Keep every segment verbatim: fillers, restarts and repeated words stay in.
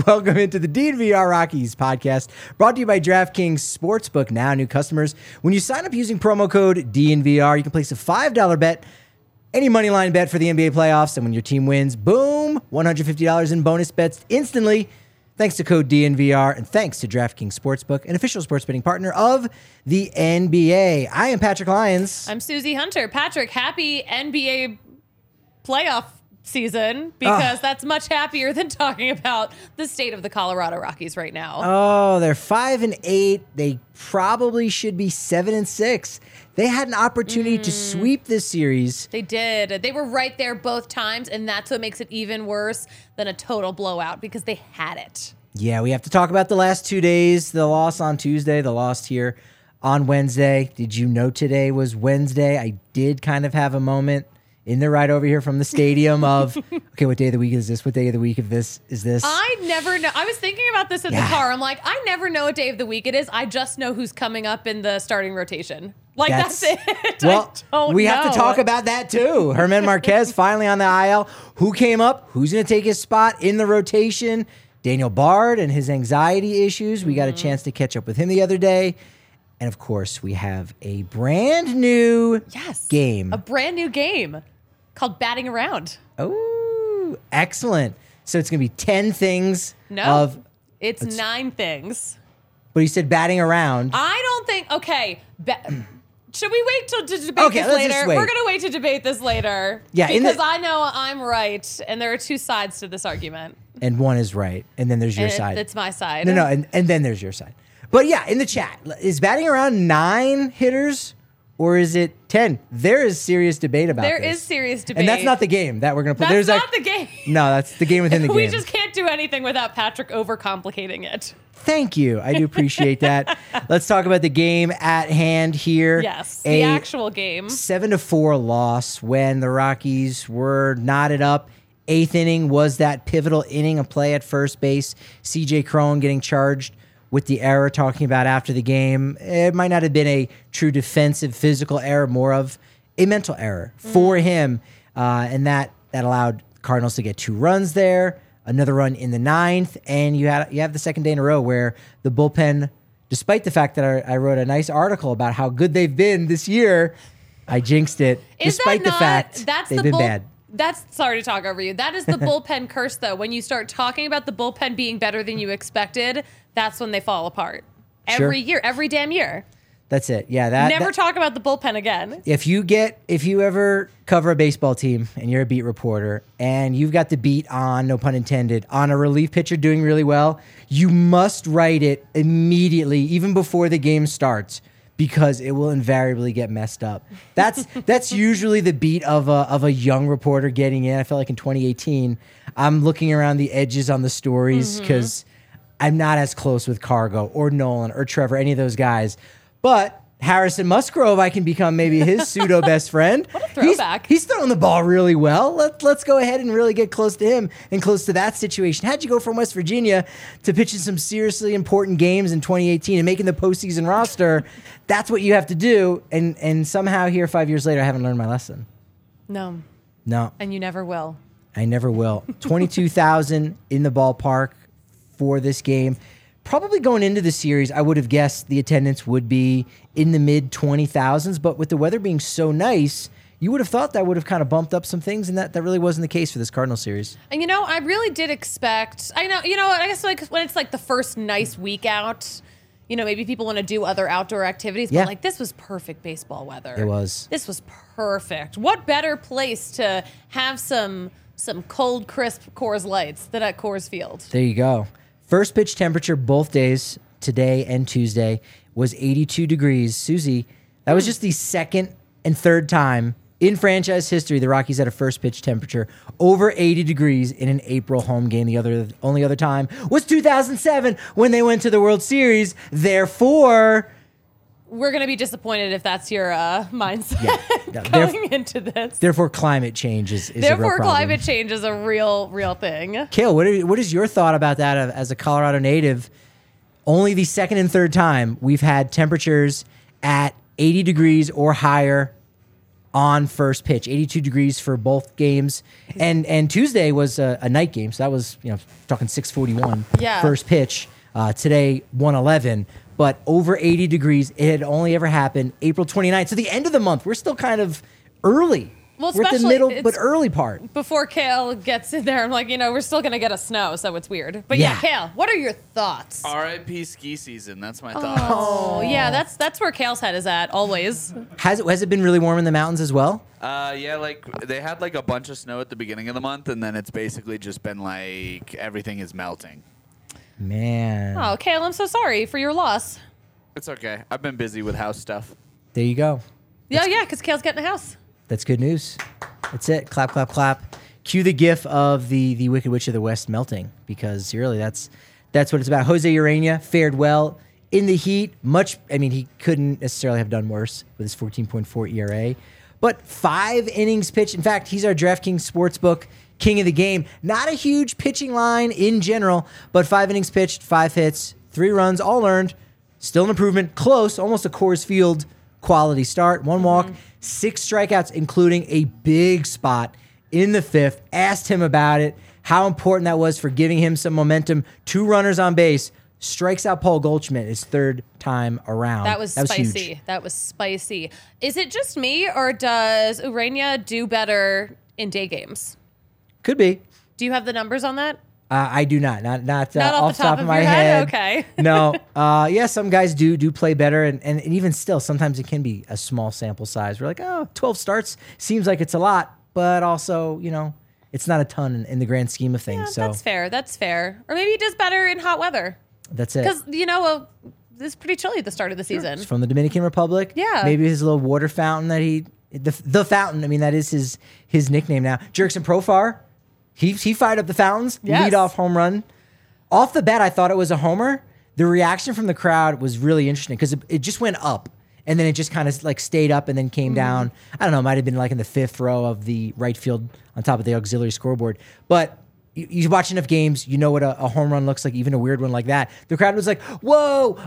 Welcome into the D N V R Rockies podcast, brought to you by DraftKings Sportsbook. Now, new customers, when you sign up using promo code D N V R, you can place a five dollar bet, any money line bet for the N B A playoffs, and when your team wins, boom, one hundred fifty dollars in bonus bets instantly. Thanks to code D N V R, and thanks to DraftKings Sportsbook, an official sports betting partner of the N B A. I am Patrick Lyons. I'm Susie Hunter. Patrick, happy N B A playoff season, because uh, that's much happier than talking about the state of the Colorado Rockies right now. Oh, they're five and eight. They probably should be seven and six. They had an opportunity mm. to sweep this series. They did. They were right there both times, and that's what makes it even worse than a total blowout, because they had it. Yeah, we have to talk about the last two days. The loss on Tuesday, the loss here on Wednesday. Did you know today was Wednesday? I did kind of have a moment in the ride over here from the stadium of, okay, what day of the week is this? What day of the week of this is this? I never know. I was thinking about this in yeah. the car. I'm like, I never know what day of the week it is. I just know who's coming up in the starting rotation. Like, that's, that's it. Well, I don't we know. have to talk about that too. German Marquez finally on the I L. Who came up? Who's going to take his spot in the rotation? Daniel Bard and his anxiety issues. We got a chance to catch up with him the other day. And of course, we have a brand new yes, game. A brand new game called Batting Around. Oh, excellent. So it's going to be ten things no, of... it's nine things. But you said batting around. I don't think... Okay. Ba- should we wait till to debate okay, this let's later? Just wait. We're going to wait to debate this later. Yeah, because the, I know I'm right, and there are two sides to this argument. And one is right, and then there's your and side. It's my side. No, no, and, and then there's your side. But yeah, in the chat, is batting around nine hitters? Or is it ten? There is serious debate about there this. There is serious debate. And that's not the game that we're going to play. That's There's not like, the game. No, that's the game within the game. We just can't do anything without Patrick overcomplicating it. Thank you. I do appreciate that. Let's talk about the game at hand here. Yes, A the actual game. seven to four loss when the Rockies were knotted up. Eighth inning was that pivotal inning of play at first base. C J Cron getting charged with the error, talking about after the game. It might not have been a true defensive physical error, more of a mental error for mm. him. Uh, and that that allowed Cardinals to get two runs there, another run in the ninth, and you had you have the second day in a row where the bullpen, despite the fact that I, I wrote a nice article about how good they've been this year, I jinxed it, Is despite that the not, fact that's they've the been bull- bad. That's, sorry to talk over you. That is the bullpen curse, though. When you start talking about the bullpen being better than you expected, that's when they fall apart. Every Sure. year, every damn year. That's it. Yeah. That Never that, talk about the bullpen again. If you get, if you ever cover a baseball team and you're a beat reporter and you've got the beat on, no pun intended, on a relief pitcher doing really well, you must write it immediately, even before the game starts, because it will invariably get messed up. That's that's usually the beat of a of a young reporter getting in. I feel like in twenty eighteen, I'm looking around the edges on the stories because mm-hmm. I'm not as close with Cargo or Nolan or Trevor, any of those guys. But Harrison Musgrove, I can become maybe his pseudo best friend. What a throwback. He's, he's throwing the ball really well. Let, let's go ahead and really get close to him and close to that situation. How'd you go from West Virginia to pitching some seriously important games in twenty eighteen and making the postseason roster? That's what you have to do. And, and somehow here five years later, I haven't learned my lesson. No. No. And you never will. I never will. twenty-two thousand in the ballpark for this game. Probably going into the series, I would have guessed the attendance would be in the mid twenty thousands, but with the weather being so nice, you would have thought that would have kind of bumped up some things, and that, that really wasn't the case for this Cardinal series. And, you know, I really did expect, I know, you know, I guess like when it's like the first nice week out, you know, maybe people want to do other outdoor activities, but yeah. like this was perfect baseball weather. It was. This was perfect. What better place to have some some cold, crisp Coors Lights than at Coors Field? There you go. First pitch temperature both days, today and Tuesday, was eighty-two degrees. Susie, that was just the second and third time in franchise history the Rockies had a first pitch temperature over eighty degrees in an April home game. The other only other time was two thousand seven when they went to the World Series. Therefore, we're going to be disappointed if that's your uh, mindset yeah. going into this. Therefore, climate change is, is Therefore, a real problem. climate change is a real, real thing. Kale, what, are, what is your thought about that as a Colorado native? Only the second and third time we've had temperatures at eighty degrees or higher on first pitch. eighty-two degrees for both games. And and Tuesday was a, a night game. So that was, you know, talking six forty-one Yeah. first pitch. Uh, today, one eleven. But over eighty degrees. It had only ever happened April twenty-ninth. So the end of the month, we're still kind of early. Well, we're at the especially middle, it's- but early part. Before Kale gets in there, I'm like, you know, we're still gonna get a snow, so it's weird. But yeah, Yeah. Kale, what are your thoughts? R I P ski season. That's my thoughts. Oh, yeah, that's that's where Kale's head is at always. Has it, has it been really warm in the mountains as well? Uh, yeah, like they had like a bunch of snow at the beginning of the month, and then it's basically just been like everything is melting. Man. Oh, Kale, I'm so sorry for your loss. It's okay. I've been busy with house stuff. There you go. Yeah, yeah, because Kale's getting a house. That's good news. That's it. Clap, clap, clap. Cue the gif of the the Wicked Witch of the West melting, because really that's that's what it's about. Jose Urena fared well in the heat. Much, I mean, he couldn't necessarily have done worse with his fourteen point four E R A, but five innings pitched. In fact, he's our DraftKings Sportsbook king of the game. Not a huge pitching line in general, but five innings pitched, five hits, three runs, all earned. Still an improvement. Close, almost a Coors Field quality start. One walk, mm-hmm. six strikeouts, including a big spot in the fifth. Asked him about it, how important that was for giving him some momentum. Two runners on base. Strikes out Paul Goldschmidt his third time around. That was, that was spicy. Huge. That was spicy. Is it just me, or does Urena do better in day games? Could be. Do you have the numbers on that? Uh, I do not. Not not, uh, Not off the top of, of my your head. head? Okay. No. Uh, yeah, some guys do do play better, and, and even still, sometimes it can be a small sample size. We're like, oh, twelve starts seems like it's a lot, but also, you know, it's not a ton in, in the grand scheme of things. Yeah, so that's fair. That's fair. Or maybe he does better in hot weather. That's it. Because, you know, uh, it's pretty chilly at the start of the season. It's from the Dominican Republic. Yeah. Maybe his little water fountain that he the the fountain. I mean, that is his his nickname now. Jerkson Profar. He he fired up the fountains. Yes. Lead off home run. Off the bat, I thought it was a homer. The reaction from the crowd was really interesting because it, it just went up and then it just kind of like stayed up and then came mm-hmm. down. I don't know. It might have been like in the fifth row of the right field on top of the auxiliary scoreboard. But you, you watch enough games, you know what a, a home run looks like, even a weird one like that. The crowd was like, "Whoa,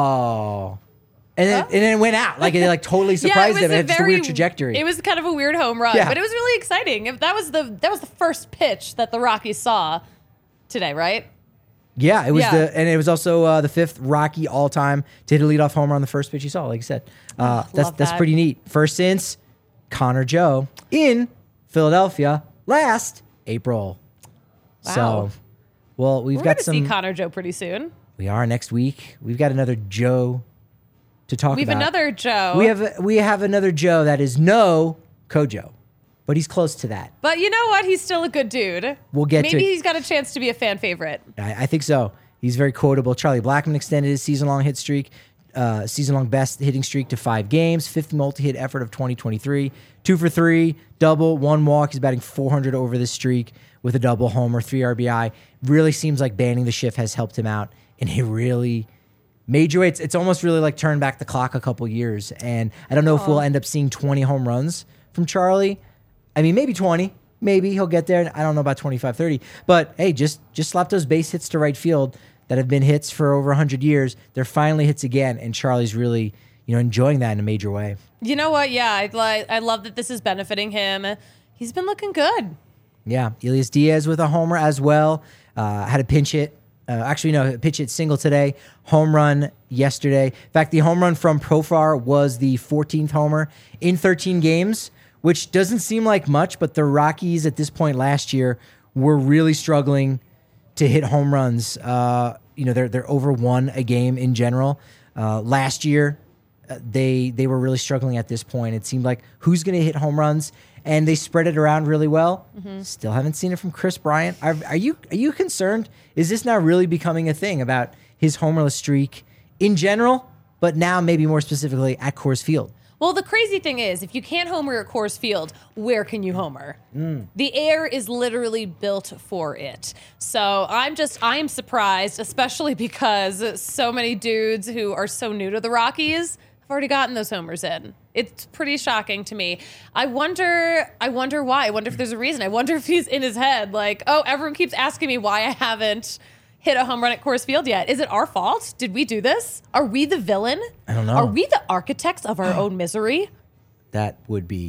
oh!" And then, huh? and then it went out. Like it like totally surprised yeah, it them. was It's a just very a weird trajectory. It was kind of a weird home run, Yeah. but it was really exciting. If that was the that was the first pitch that the Rockies saw today, right? Yeah, it was Yeah. the and it was also uh, the fifth Rocky all time to hit a leadoff homer on the first pitch you saw. Like you said, uh, Oh, that's love that's that. pretty neat. First since Connor Joe in Philadelphia last April. Wow. So, well, we've We're got going to some. see Connor Joe pretty soon. we are next week. We've got another Joe to talk We have about. another Joe. We have we have another Joe that is no Kojo, but he's close to that. But you know what? He's still a good dude. We'll get to Maybe it. he's got a chance to be a fan favorite. I, I think so. He's very quotable. Charlie Blackmon extended his season-long hit streak, uh, season-long best hitting streak to five games, fifth multi-hit effort of twenty twenty-three, two for three, double, one walk. He's batting four hundred over this streak with a double homer, three R B I. Really seems like banning the shift has helped him out in a really major way. It's, it's almost really like turned back the clock a couple years, and I don't know if we'll end up seeing twenty home runs from Charlie. I mean, maybe twenty. Maybe he'll get there. I don't know about twenty-five, thirty. But, hey, just just slap those base hits to right field that have been hits for over one hundred years. They're finally hits again, and Charlie's really, you know, enjoying that in a major way. You know what? Yeah, I like. I love that this is benefiting him. He's been looking good. Yeah, Elias Diaz with a homer as well. Uh, had a pinch hit. Uh, actually, no, a pitch hit single today. Home run yesterday. In fact, the home run from Profar was the fourteenth homer in thirteen games, which doesn't seem like much, but the Rockies at this point last year were really struggling to hit home runs. Uh, you know, they're they're over one a game in general. Uh, last year, uh, they they were really struggling at this point. It seemed like who's going to hit home runs, and they spread it around really well. Mm-hmm. Still haven't seen it from Chris Bryant. Are, are you are you concerned? Is this now really becoming a thing about his homerless streak in general, but now maybe more specifically at Coors Field? Well, the crazy thing is, if you can't homer at Coors Field, where can you homer? Mm. The air is literally built for it. So I'm just, I am surprised, especially because so many dudes who are so new to the Rockies have already gotten those homers in. It's pretty shocking to me. I wonder, I wonder why. I wonder if there's a reason. I wonder if he's in his head like, oh, everyone keeps asking me why I haven't hit a home run at Coors Field yet. Is it our fault? Did we do this? Are we the villain? I don't know. Are we the architects of our own misery? That would be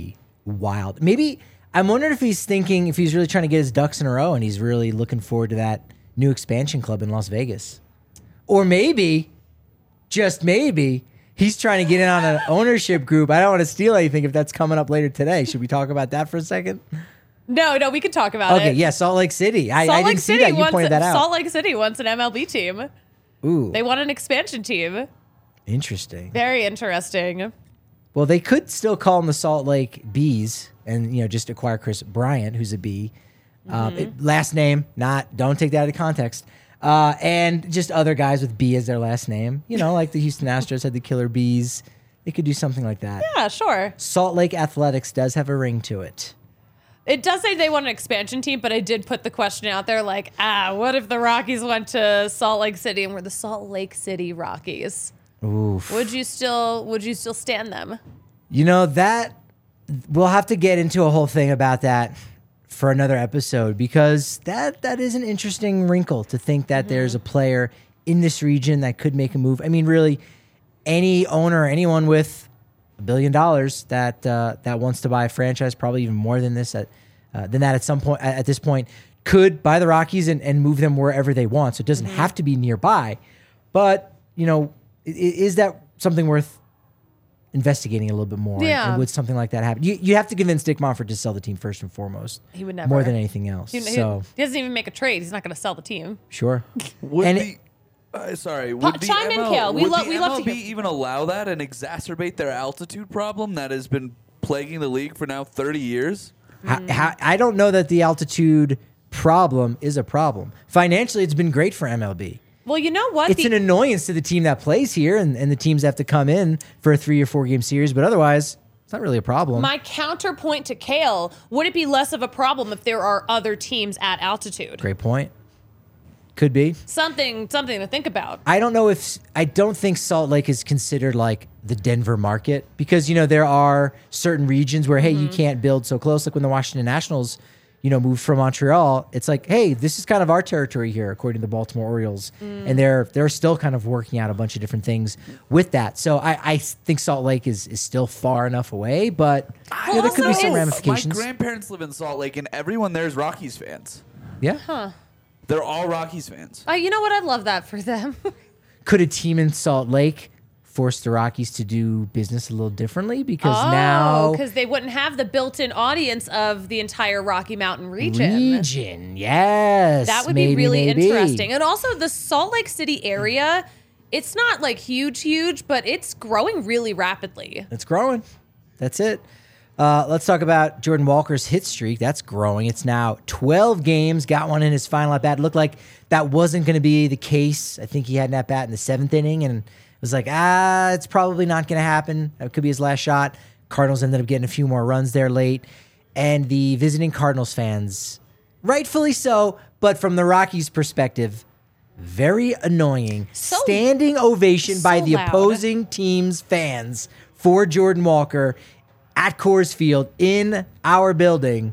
wild. Maybe I'm wondering if he's thinking, if he's really trying to get his ducks in a row and he's really looking forward to that new expansion club in Las Vegas. Or maybe, just maybe, he's trying to get in on an ownership group. I don't want to steal anything if that's coming up later today. Should we talk about that for a second? No, no, we can talk about Okay, it. yeah, Salt Lake City. I, Salt I Lake didn't City see that. You wants, pointed that out. Salt Lake City wants an M L B team. Ooh, They want an expansion team. interesting. Very interesting. Well, they could still call them the Salt Lake Bees and, you know, just acquire Chris Bryant, who's a bee. Um, Mm-hmm. it- last name, not, don't take that out of context. Uh, and just other guys with B as their last name. You know, like the Houston Astros had the Killer Bees. They could do something like that. Yeah, sure. Salt Lake Athletics does have a ring to it. It does say they want an expansion team, but I did put the question out there like, ah, what if the Rockies went to Salt Lake City and we're the Salt Lake City Rockies? Oof. Would you still would you still stand them? You know, that we'll have to get into a whole thing about that for another episode, because that that is an interesting wrinkle to think that Mm-hmm. there's a player in this region that could make a move. I mean, really, any owner, anyone with a billion dollars that uh, that wants to buy a franchise, probably even more than this at uh, than that at some point at, at this point, could buy the Rockies and, and move them wherever they want. So it doesn't Mm-hmm. have to be nearby. But you know, i- is that something worth investigating a little bit more? Yeah. And would something like that happen? You you have to convince Dick Monfort to sell the team first and foremost. He would never. More than anything else. He, he- so he doesn't even make a trade. He's not going to sell the team. sure. Would And the, uh, sorry, would the chime in, M L Kale. We would lo- the we love to M L B hear- even allow that and exacerbate their altitude problem that has been plaguing the league for now thirty years? How, how, I don't know that the altitude problem is a problem. Financially, it's been great for M L B. Well, you know what? It's The- an annoyance to the team that plays here and, and the teams that have to come in for a three or four game series, but otherwise, it's not really a problem. My counterpoint to Kale, would it be less of a problem if there are other teams at altitude? Great point. Could be. Something something to think about. I don't know if I don't think Salt Lake is considered like the Denver market, because you know there are certain regions where hey, Mm-hmm. you can't build so close. Like when the Washington Nationals, you know, moved from Montreal, it's like hey, this is kind of our territory here, according to the Baltimore Orioles, Mm. and they're they're still kind of working out a bunch of different things with that. So I, I think Salt Lake is is still far enough away, but you know, there could be also some is- ramifications. My grandparents live in Salt Lake, and everyone there is Rockies fans. Yeah. They're all Rockies fans. Uh, you know what? I'd love that for them. Could a team in Salt Lake force the Rockies to do business a little differently? Because now because they wouldn't have the built-in audience of the entire Rocky Mountain region. region, yes, That would maybe, be really maybe. interesting. And also the Salt Lake City area, it's not like huge, huge, but it's growing really rapidly. It's growing. That's it. Uh, let's talk about Jordan Walker's hit streak. That's growing. It's now twelve games. Got one in his final at bat. It looked like that wasn't going to be the case. I think he had an at bat in the seventh inning, and it was like, ah, it's probably not going to happen. That could be his last shot. Cardinals ended up getting a few more runs there late, and the visiting Cardinals fans, rightfully so, but from the Rockies' perspective, very annoying. So- Standing ovation by so the loud. opposing team's fans for Jordan Walker at Coors Field in our building.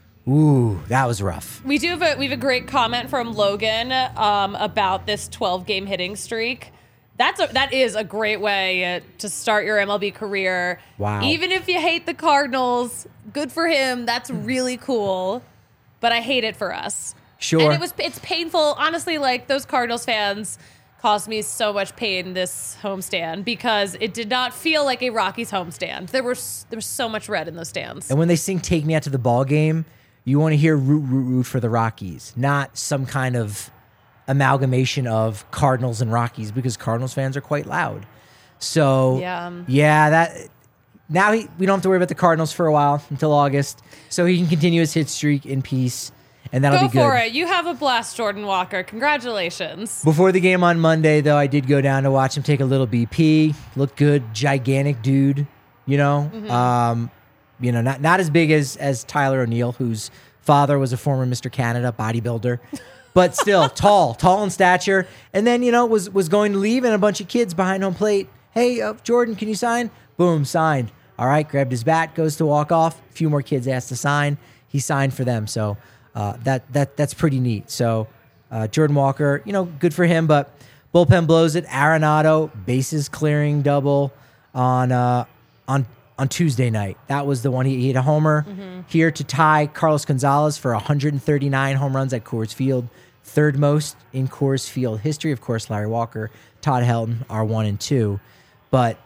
Ooh, that was rough. We do have a we have a great comment from Logan um, about this twelve game hitting streak. That's a, that is a great way uh, to start your M L B career. Wow. Even if you hate the Cardinals, good for him. That's really cool. But I hate it for us. Sure. And it was it's painful. Honestly, like those Cardinals fans caused me so much pain this homestand because it did not feel like a Rockies homestand. There was there was so much red in those stands. And when they sing "Take Me Out to the Ball Game," you want to hear "root, root, root" for the Rockies, not some kind of amalgamation of Cardinals and Rockies, because Cardinals fans are quite loud. So Yeah. yeah, that now he, we don't have to worry about the Cardinals for a while until August, so he can continue his hit streak in peace, and that'll Go be good. for it. You have a blast, Jordan Walker. Congratulations. Before the game on Monday, though, I did go down to watch him take a little B P. Looked good, gigantic dude. You know, um, you know, not not as big as as Tyler O'Neill, whose father was a former Mister Canada bodybuilder, but still tall, tall in stature. And then you know was was going to leave, and a bunch of kids behind home plate. Hey, uh, Jordan, can you sign? Boom, signed. All right, grabbed his bat, goes to walk off. A few more kids asked to sign. He signed for them. So uh, that that that's pretty neat. So uh, Jordan Walker, you know, good for him. But bullpen blows it. Arenado bases clearing double on uh, on on Tuesday night. That was the one he, he hit a homer Mm-hmm. here to tie Carlos Gonzalez for one hundred thirty-nine home runs at Coors Field, third most in Coors Field history. Of course, Larry Walker, Todd Helton are one and two, but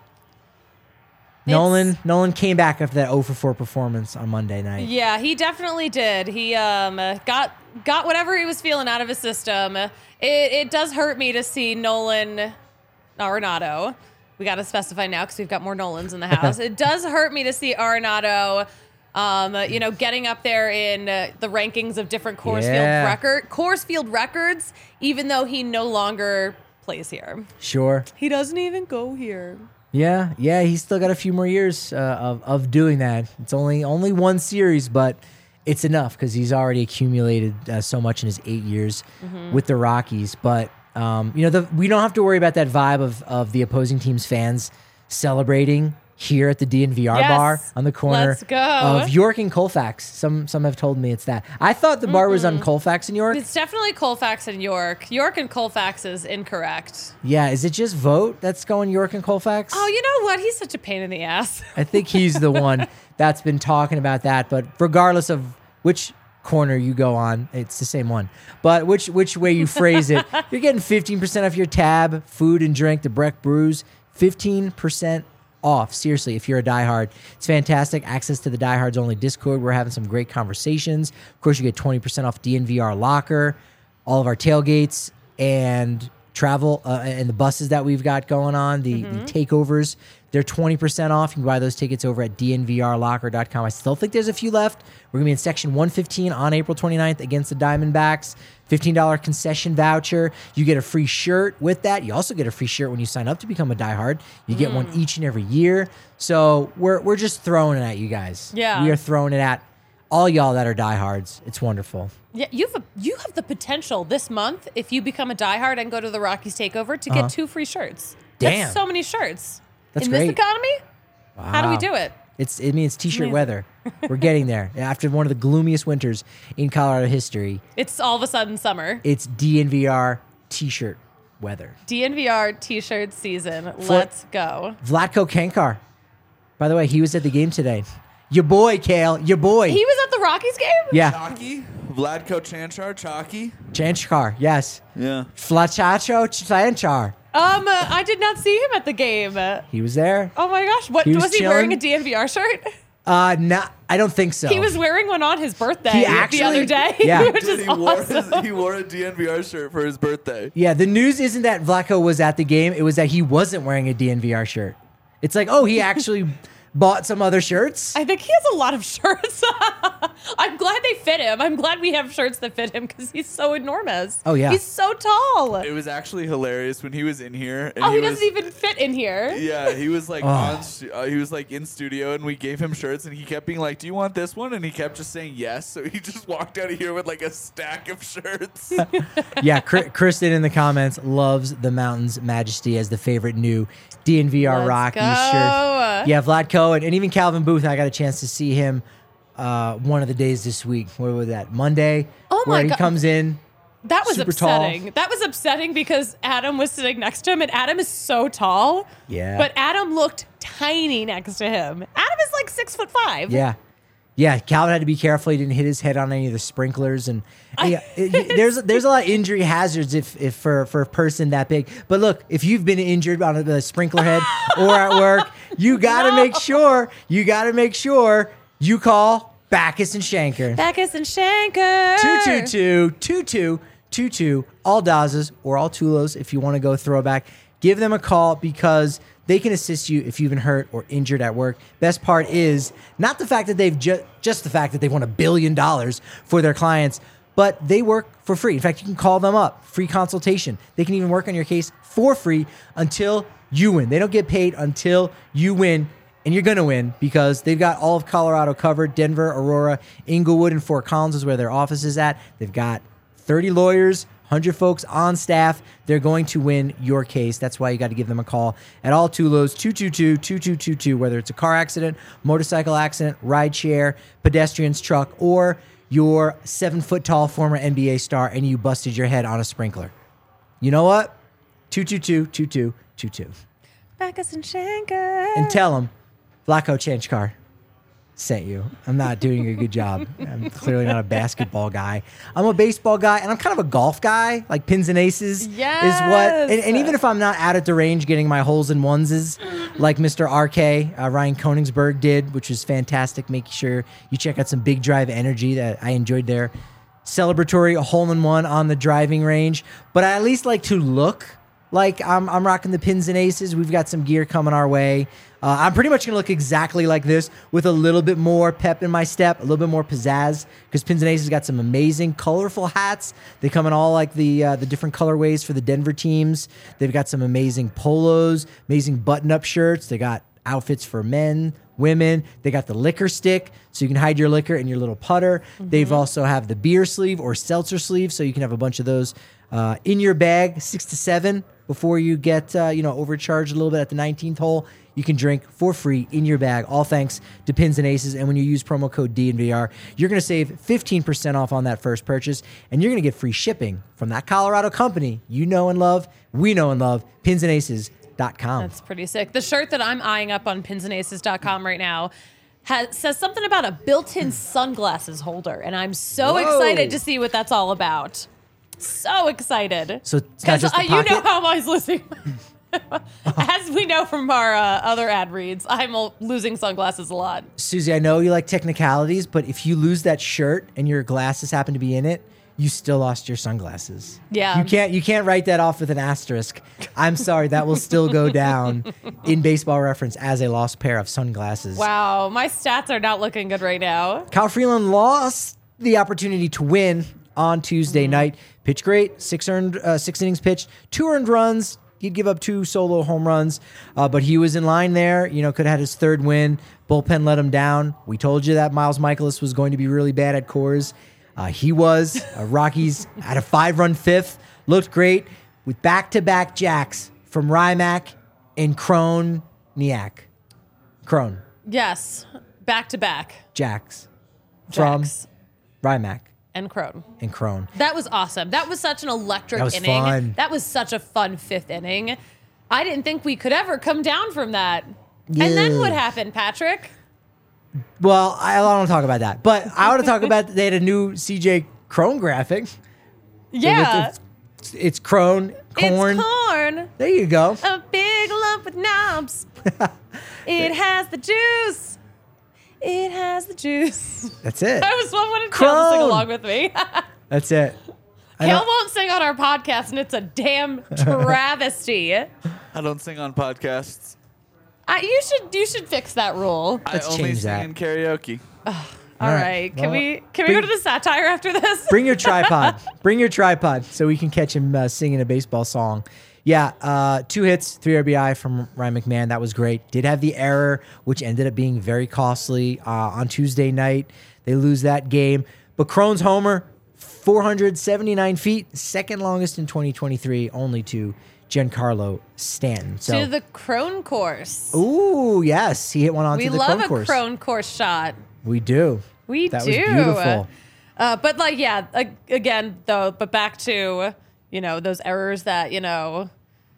Nolan Nolan came back after that oh for four performance on Monday night. Yeah, he definitely did. He um got got whatever he was feeling out of his system. It, it does hurt me to see Nolan Arenado. We got to specify now because we've got more Nolans in the house. It does hurt me to see Arenado, um, you know, getting up there in uh, the rankings of different Coors Yeah. Field record Coors Field records, even though he no longer plays here. Sure. He doesn't even go here. Yeah, yeah, he's still got a few more years uh, of of doing that. It's only only one series, but it's enough because he's already accumulated uh, so much in his eight years Mm-hmm. with the Rockies. But um, you know, the, we don't have to worry about that vibe of of the opposing team's fans celebrating here at the D N V R Yes. bar on the corner Let's go. of York and Colfax. Some some have told me it's that. I thought the bar was on Colfax in York. It's definitely Colfax and York. York and Colfax is incorrect. Yeah, is it just Vote that's going York and Colfax? Oh, you know what? He's such a pain in the ass. I think he's the one that's been talking about that. But regardless of which corner you go on, it's the same one. But which which way you phrase it, you're getting fifteen percent off your tab, food and drink, the Breck Brews, fifteen percent off. Seriously, if you're a diehard, it's fantastic. Access to the Diehards Only Discord. We're having some great conversations. Of course, you get twenty percent off D N V R Locker, all of our tailgates, and travel uh, and the buses that we've got going on, the, the takeovers. They're twenty percent off. You can buy those tickets over at D N V R locker dot com. I still think there's a few left. We're going to be in section one fifteen on April twenty-ninth against the Diamondbacks. fifteen dollars concession voucher. You get a free shirt with that. You also get a free shirt when you sign up to become a diehard. You get one each and every year. So we're we're just throwing it at you guys. Yeah. We are throwing it at all y'all that are diehards. It's wonderful. Yeah, you have a, you have the potential this month if you become a diehard and go to the Rockies takeover to get two free shirts. Damn. That's so many shirts. That's in great. this economy? How do we Wow. do it? It's it means t-shirt Amazing. weather. We're getting there. After one of the gloomiest winters in Colorado history, It's all of a sudden summer. it's D N V R t-shirt weather. D N V R t-shirt season. Let's go. Vlatko Kankar. By the way, he was at the game today. Your boy, Kale. Your boy. He was at the Rockies game? yeah. Chalky? Vladko Chanchar? Chalky? Chanchar. Yes. Yeah. Flachacho Chanchar. Um, uh, I did not see him at the game. Uh, He was there. Oh my gosh. What He was was, he wearing a chilling. D N V R shirt? Uh, no, I don't think so. He was wearing one on his birthday He the actually- other day. yeah. which Dude, is he, wore awesome. his, he wore a D N V R shirt for his birthday. Yeah, the news isn't that Vlatko was at the game. It was that he wasn't wearing a D N V R shirt. It's like, oh, he actually bought some other shirts. I think he has a lot of shirts. I'm glad they fit him. I'm glad we have shirts that fit him because he's so enormous. Oh, yeah. He's so tall. It was actually hilarious when he was in here. And Oh, he, was, doesn't even fit in here. Yeah, he was like Oh. on. stu- Uh, he was like in studio, and we gave him shirts, and he kept being like, "Do you want this one?" And he kept just saying yes. So he just walked out of here with like a stack of shirts. Yeah, Kr- Kristen in the comments loves the Mountain's Majesty as the favorite new D N V R Let's Rockies go. shirt. Yeah, Vlatko and, and even Calvin Booth. I got a chance to see him uh, one of the days this week. What was that? Monday. Oh my where he God. comes in. That was Super tall. upsetting. That was upsetting because Adam was sitting next to him, and Adam is so tall. Yeah. But Adam looked tiny next to him. Adam is like six foot five. Yeah. Yeah, Calvin had to be careful. He didn't hit his head on any of the sprinklers, and yeah, it- it- there's there's a lot of injury hazards if, if for for a person that big. But look, if you've been injured on a, a sprinkler head or at work, you got to No. make sure you got to make sure you call Backus and Shanker. Backus and Shanker. two two two, two two two two, all Dazas or all Tulos if you want to go throwback. Give them a call because they can assist you if you've been hurt or injured at work. Best part is not the fact that they've ju- just the fact that they've won a billion dollars for their clients, but they work for free. In fact, you can call them up, free consultation. They can even work on your case for free until you win. They don't get paid until you win. And you're going to win because they've got all of Colorado covered. Denver, Aurora, Inglewood, and Fort Collins is where their office is at. They've got thirty lawyers, one hundred folks on staff. They're going to win your case. That's why you got to give them a call at all Tulos, two two two, two two two two, whether it's a car accident, motorcycle accident, ride share, pedestrian's truck, or you're seven-foot-tall former N B A star and you busted your head on a sprinkler. You know what? two two two, two two two two. Backus and Shanker. And tell them Blacko Chanchkar sent you. I'm not doing a good job. I'm clearly not a basketball guy. I'm a baseball guy, and I'm kind of a golf guy. Like pins and aces Yes. is what. And, and even if I'm not out at the range getting my holes and oneses, like Mister R K, uh, Ryan Koenigsberg did, which was fantastic, making sure you check out some Big Drive Energy that I enjoyed there. Celebratory hole-in-one on the driving range. But I at least like to look like I'm, I'm rocking the pins and aces. We've got some gear coming our way. Uh, I'm pretty much going to look exactly like this with a little bit more pep in my step, a little bit more pizzazz, because Pins and Aces got some amazing, colorful hats. They come in all like the uh, the different colorways for the Denver teams. They've got some amazing polos, amazing button-up shirts. They got outfits for men, women. They got the liquor stick, so you can hide your liquor in your little putter. Mm-hmm. They've also have the beer sleeve or seltzer sleeve, so you can have a bunch of those uh, in your bag, six to seven, before you get uh, you know overcharged a little bit at the nineteenth hole. You can drink for free in your bag, all thanks to Pins and Aces. And when you use promo code D N V R, you're going to save fifteen percent off on that first purchase, and you're going to get free shipping from that Colorado company you know and love, we know and love, pins and aces dot com. That's pretty sick. The shirt that I'm eyeing up on pins and aces dot com right now has, says something about a built-in sunglasses holder, and I'm so Whoa. excited to see what that's all about. So excited. So it's not just uh, the you know pocket? how I'm always losing. As we know from our uh, other ad reads, I'm uh, losing sunglasses a lot. Susie, I know you like technicalities, but if you lose that shirt and your glasses happen to be in it, you still lost your sunglasses. Yeah. You can't you can't write that off with an asterisk. I'm sorry, that will still go down in Baseball Reference as a lost pair of sunglasses. Wow, my stats are not looking good right now. Kyle Freeland lost the opportunity to win on Tuesday Mm-hmm. night. Pitched great, six earned, uh, six innings pitched, two earned runs. He'd give up two solo home runs, uh, but he was in line there. You know, could have had his third win. Bullpen let him down. We told you that Miles Michaelis was going to be really bad at Coors. Uh, he was. Uh, Rockies had a five-run fifth. Looked great with back-to-back jacks from Rymack and Kroniak. Crone. Yes, back to back. Jacks. From Jacks Rymack and Crone. and Crone. That was awesome. That was such an electric That was inning. fun. That was such a fun fifth inning. I didn't think we could ever come down from that. Yeah. And then what happened, Patrick? Well, I, I don't want to talk about that. But I want to talk about they had a new C J Crone graphic. Yeah. It's, it's Crone, corn. It's corn. There you go. A big lump with knobs. It has the juice. It has the juice. That's it. I was wanted Kale to sing Crone. along with me. That's it. I Kale don't- won't sing on our podcast, and it's a damn travesty. I, I don't sing on podcasts. you should you should fix that rule. Let's I only change sing that. in karaoke. All All right. right. Can Well, we can we bring- go to the satire after this? Bring your tripod. Bring your tripod so we can catch him uh, singing a baseball song. Yeah, uh, two hits, three R B I from Ryan McMahon. That was great. Did have the error, which ended up being very costly uh, on Tuesday night. They lose that game. But Crone's homer, four hundred seventy-nine feet, second longest in twenty twenty-three, only to Giancarlo Stanton. So, to the Crone course. ooh, yes, he hit one onto we the love Crone a course. Crone course shot. We do. We that do. was beautiful. Uh, but like, yeah, ag- again, though, but back to, you know, those errors that, you know,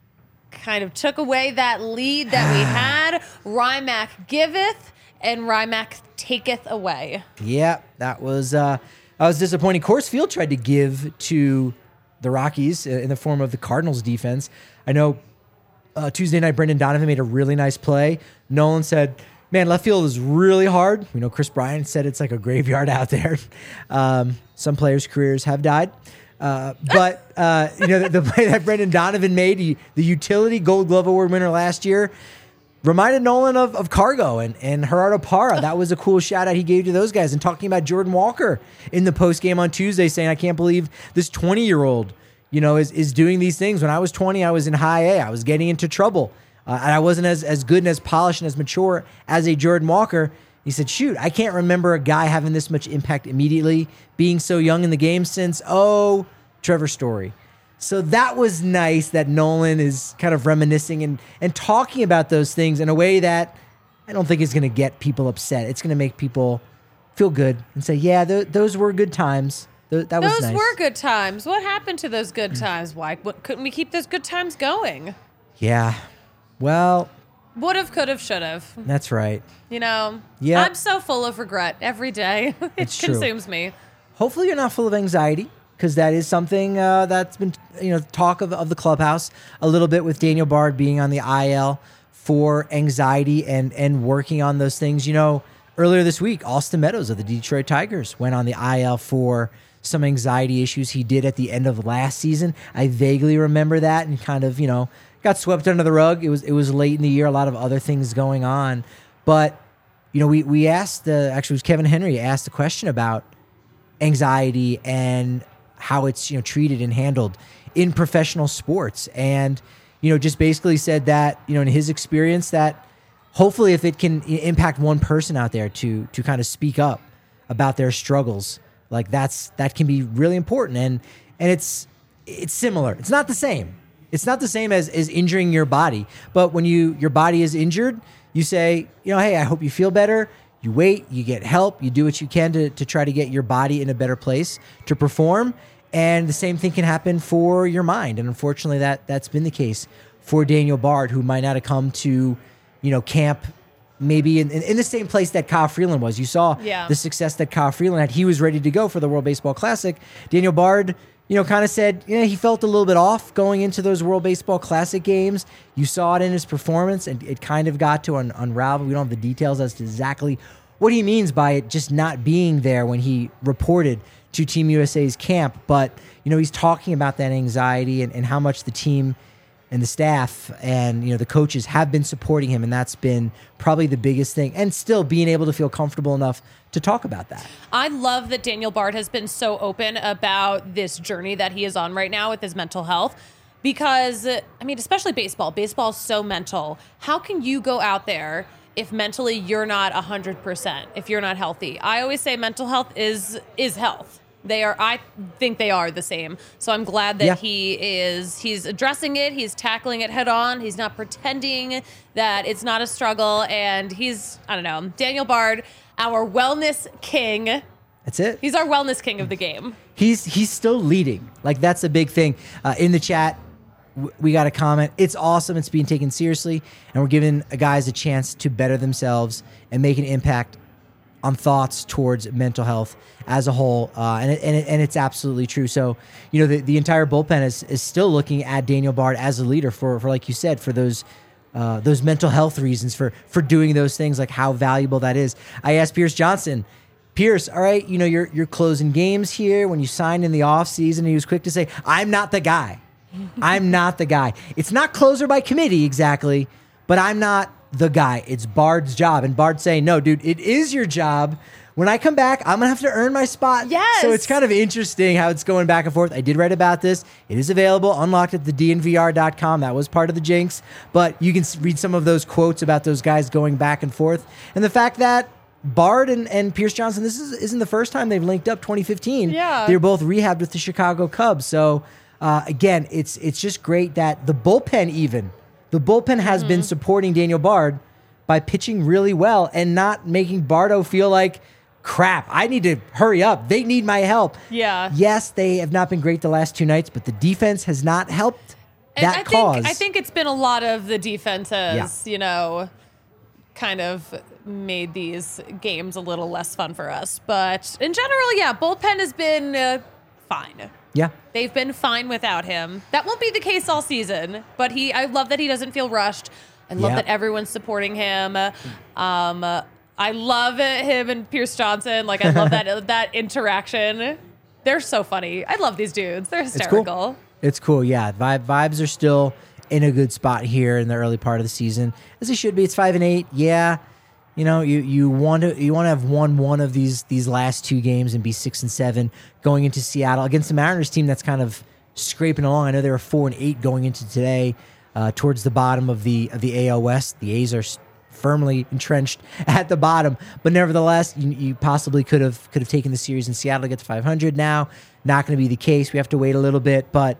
kind of took away that lead that we had. Rymack giveth and Rymack taketh away. Yeah, that was uh, that was disappointing. Coors Field tried to give to the Rockies uh, in the form of the Cardinals defense. I know uh, Tuesday night, Brendan Donovan made a really nice play. Nolan said, man, left field is really hard. We know Chris Bryant said it's like a graveyard out there. Um, some players' careers have died. Uh, but, uh, you know, the, the play that Brendan Donovan made, he, the utility Gold Glove Award winner last year, reminded Nolan of, of Cargo and, and Gerardo Parra. That was a cool shout out he gave to those guys. And talking about Jordan Walker in the post game on Tuesday, saying, I can't believe this twenty-year-old, you know, is, is doing these things. When I was twenty, I was in high A. I was getting into trouble. Uh, and I wasn't as, as good and as polished and as mature as a Jordan Walker. He said, shoot, I can't remember a guy having this much impact immediately, being so young in the game since, oh, Trevor Story. So that was nice that Nolan is kind of reminiscing and, and talking about those things in a way that I don't think is going to get people upset. It's going to make people feel good and say, yeah, th- those were good times. Th- that was Those nice. were good times. What happened to those good times? Why what, couldn't we keep those good times going? Yeah. Well, Would have, could have, should have. That's right. You know, Yeah. I'm so full of regret every day. it It's true. consumes me. Hopefully you're not full of anxiety, because that is something uh, that's been, you know, talk of, of the clubhouse a little bit with Daniel Bard being on the I L for anxiety and and working on those things. You know, earlier this week, Austin Meadows of the Detroit Tigers went on the I L for some anxiety issues he did at the end of last season. I vaguely remember that and kind of, you know, got swept under the rug. It was it was late in the year, a lot of other things going on. But, you know, we, we asked, the, actually it was Kevin Henry asked the question about anxiety and how it's, you know, treated and handled in professional sports. And, you know, just basically said that, you know, in his experience, that hopefully if it can impact one person out there to to kind of speak up about their struggles, like that's that can be really important. And and it's it's similar. It's not the same. It's not the same as, as injuring your body. But when you your body is injured, you say, you know, hey, I hope you feel better. You wait, you get help, you do what you can to, to try to get your body in a better place to perform. And the same thing can happen for your mind. And unfortunately, that, that's been the case for Daniel Bard, who might not have come to, you know, camp maybe in, in, in the same place that Kyle Freeland was. You saw Yeah. the success that Kyle Freeland had. He was ready to go for the World Baseball Classic. Daniel Bard, you know, kind of said, yeah, he felt a little bit off going into those World Baseball Classic games. You saw it in his performance, and it kind of got to un- unravel. We don't have the details as to exactly what he means by it just not being there when he reported to Team U S A's camp. But, you know, he's talking about that anxiety and, and how much the team and the staff and, you know, the coaches have been supporting him. And that's been probably the biggest thing. And still being able to feel comfortable enough to talk about that. I love that Daniel Bard has been so open about this journey that he is on right now with his mental health. Because, I mean, especially baseball. Baseball is so mental. How can you go out there if mentally you're not one hundred percent, if you're not healthy? I always say mental health is is health. They are, I think they are the same. So I'm glad that Yeah. he is, he's addressing it. He's tackling it head on. He's not pretending that it's not a struggle. And he's, I don't know, Daniel Bard, our wellness king. That's it. He's our wellness king of the game. He's he's still leading. Like, that's a big thing. Uh, in the chat, w- we got a comment. It's awesome. It's being taken seriously. And we're giving guys a chance to better themselves and make an impact on thoughts towards mental health as a whole. Uh, and, it, and, it, and it's absolutely true. So, you know, the, the entire bullpen is, is still looking at Daniel Bard as a leader for, for like you said, for those uh, those mental health reasons, for, for doing those things, like how valuable that is. I asked Pierce Johnson, Pierce, all right, you know, you're, you're closing games here. When you signed in the offseason, he was quick to say, I'm not the guy. I'm not the guy. It's not closer by committee exactly, but I'm not the guy. It's Bard's job. And Bard's saying, no, dude, it is your job. When I come back, I'm going to have to earn my spot. Yes. So it's kind of interesting how it's going back and forth. I did write about this. It is available, unlocked at the D N V R dot com. That was part of the jinx. But you can s- read some of those quotes about those guys going back and forth. And the fact that Bard and, and Pierce Johnson, this is, isn't the first time they've linked up. twenty fifteen. Yeah. They were both rehabbed with the Chicago Cubs. So, uh, again, it's it's just great that the bullpen even, the bullpen has been supporting Daniel Bard by pitching really well and not making Bardo feel like, crap, I need to hurry up. They need my help. Yeah. Yes, they have not been great the last two nights, but the defense has not helped And that I cause. think I think it's been a lot of the defense has, Yeah. you know, kind of made these games a little less fun for us. But in general, yeah, bullpen has been uh, fine. Yeah. They've been fine without him. That won't be the case all season, but he I love that he doesn't feel rushed. I love Yeah. that everyone's supporting him. Um, I love him and Pierce Johnson. Like, I love that that interaction. They're so funny. I love these dudes. They're It's hysterical. cool. It's cool, yeah. Vibe, vibes are still in a good spot here in the early part of the season, as they should be. It's five and eight. Yeah, you know, you you want to you want to have won one of these these last two games and be six and seven going into Seattle against the Mariners team that's kind of scraping along. I know they were four and eight going into today, uh, towards the bottom of the of the A L West. The A's are s- firmly entrenched at the bottom, but nevertheless, you, you possibly could have could have taken the series in Seattle to get to five hundred. Now, not going to be the case. We have to wait a little bit, but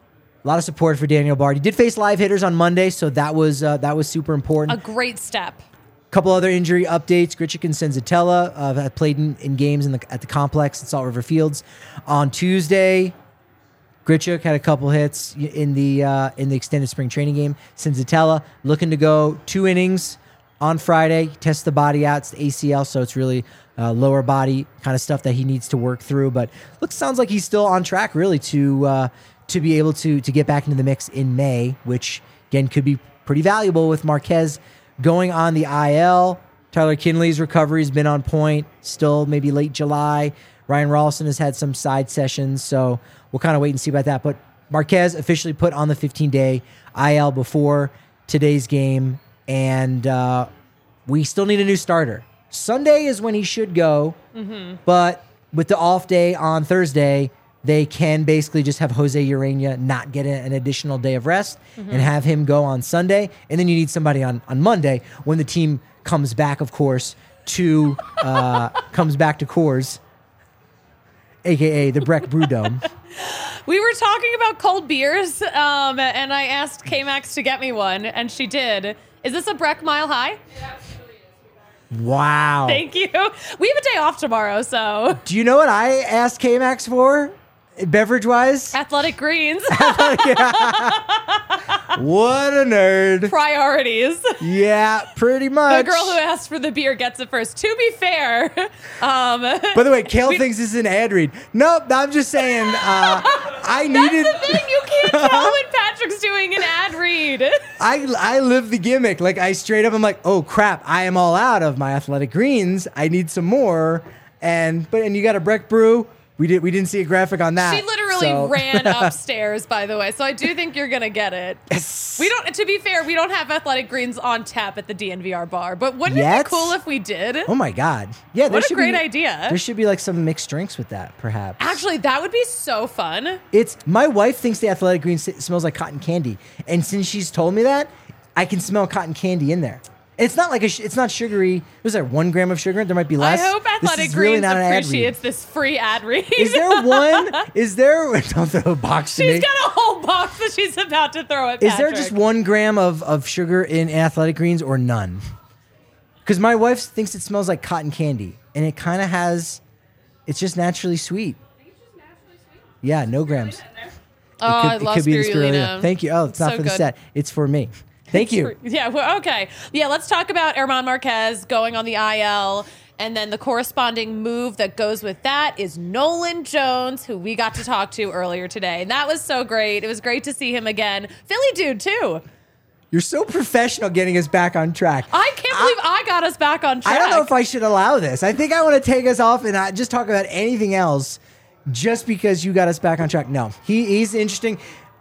a lot of support for Daniel Bard. He did face live hitters on Monday, so that was uh, that was super important. A great step. Couple other injury updates. Grichuk and Senzatella uh, have played in, in games in the, at the complex at Salt River Fields on Tuesday. Grichuk had a couple hits in the uh, in the extended spring training game. Senzatella looking to go two innings on Friday. Test the body out. It's the A C L, so it's really uh, lower body kind of stuff that he needs to work through. But looks sounds like he's still on track, really, to uh, to be able to to get back into the mix in May, which again could be pretty valuable with Marquez going on the I L. Tyler Kinley's recovery has been on point. Still maybe late July. Ryan Rolston has had some side sessions, so we'll kind of wait and see about that. But Marquez officially put on the fifteen-day I L before today's game, and uh, we still need a new starter. Sunday is when he should go, mm-hmm. but with the off day on Thursday, they can basically just have Jose Urena not get an additional day of rest mm-hmm. and have him go on Sunday. And then you need somebody on, on Monday when the team comes back, of course, to uh, comes back to Coors, a k a the Breck Brew Dome. We were talking about cold beers, um, and I asked K-Max to get me one, and she did. Is this a Breck Mile High? It absolutely is. Wow. Thank you. We have a day off tomorrow, so. Do you know what I asked K-Max for, beverage-wise? Athletic Greens. What a nerd. Priorities. Yeah, pretty much. The girl who asked for the beer gets it first. To be fair. Um, By the way, Kale we, thinks this is an ad read. Nope, I'm just saying uh, I needed... That's the thing. You can't tell when Patrick's doing an ad read. I, I live the gimmick. Like, I straight up, I'm like, oh, crap, I am all out of my Athletic Greens. I need some more. And but and you got a Breck Brew. We, did, we didn't see a graphic on that. She literally so. ran upstairs, by the way. So I do think you're going to get it. Yes. We don't, to be fair, we don't have Athletic Greens on tap at the D N V R bar. But wouldn't Yet? it be cool if we did? Oh, my God. Yeah, there What a should great be, idea. There should be like some mixed drinks with that, perhaps. Actually, that would be so fun. It's my wife thinks the Athletic Green s- smells like cotton candy, and since she's told me that, I can smell cotton candy in there. It's not like a sh- it's not sugary. Was there one gram of sugar? There might be less. I hope This Athletic is really Greens not an ad read. appreciates this free ad read. Is there one? Is there? Don't throw a box to She's me. got a whole box that she's about to throw at Is there Patrick. just one gram of, of sugar in Athletic Greens or none? Because my wife thinks it smells like cotton candy, and it kind of has. It's just naturally sweet. I think it's just naturally sweet. Yeah, no grams. Oh, It could- I it love could be the spirulina. Thank you. Oh, it's not So for the good. set. It's for me. Thank you. Yeah, well, okay. Yeah, let's talk about Herman Marquez going on the I L. And then the corresponding move that goes with that is Nolan Jones, who we got to talk to earlier today. And that was so great. It was great to see him again. Philly dude, too. You're so professional getting us back on track. I can't believe I, got us back on track. I don't know if I should allow this. I think I want to take us off and not just talk about anything else just because you got us back on track. No, he, he's interesting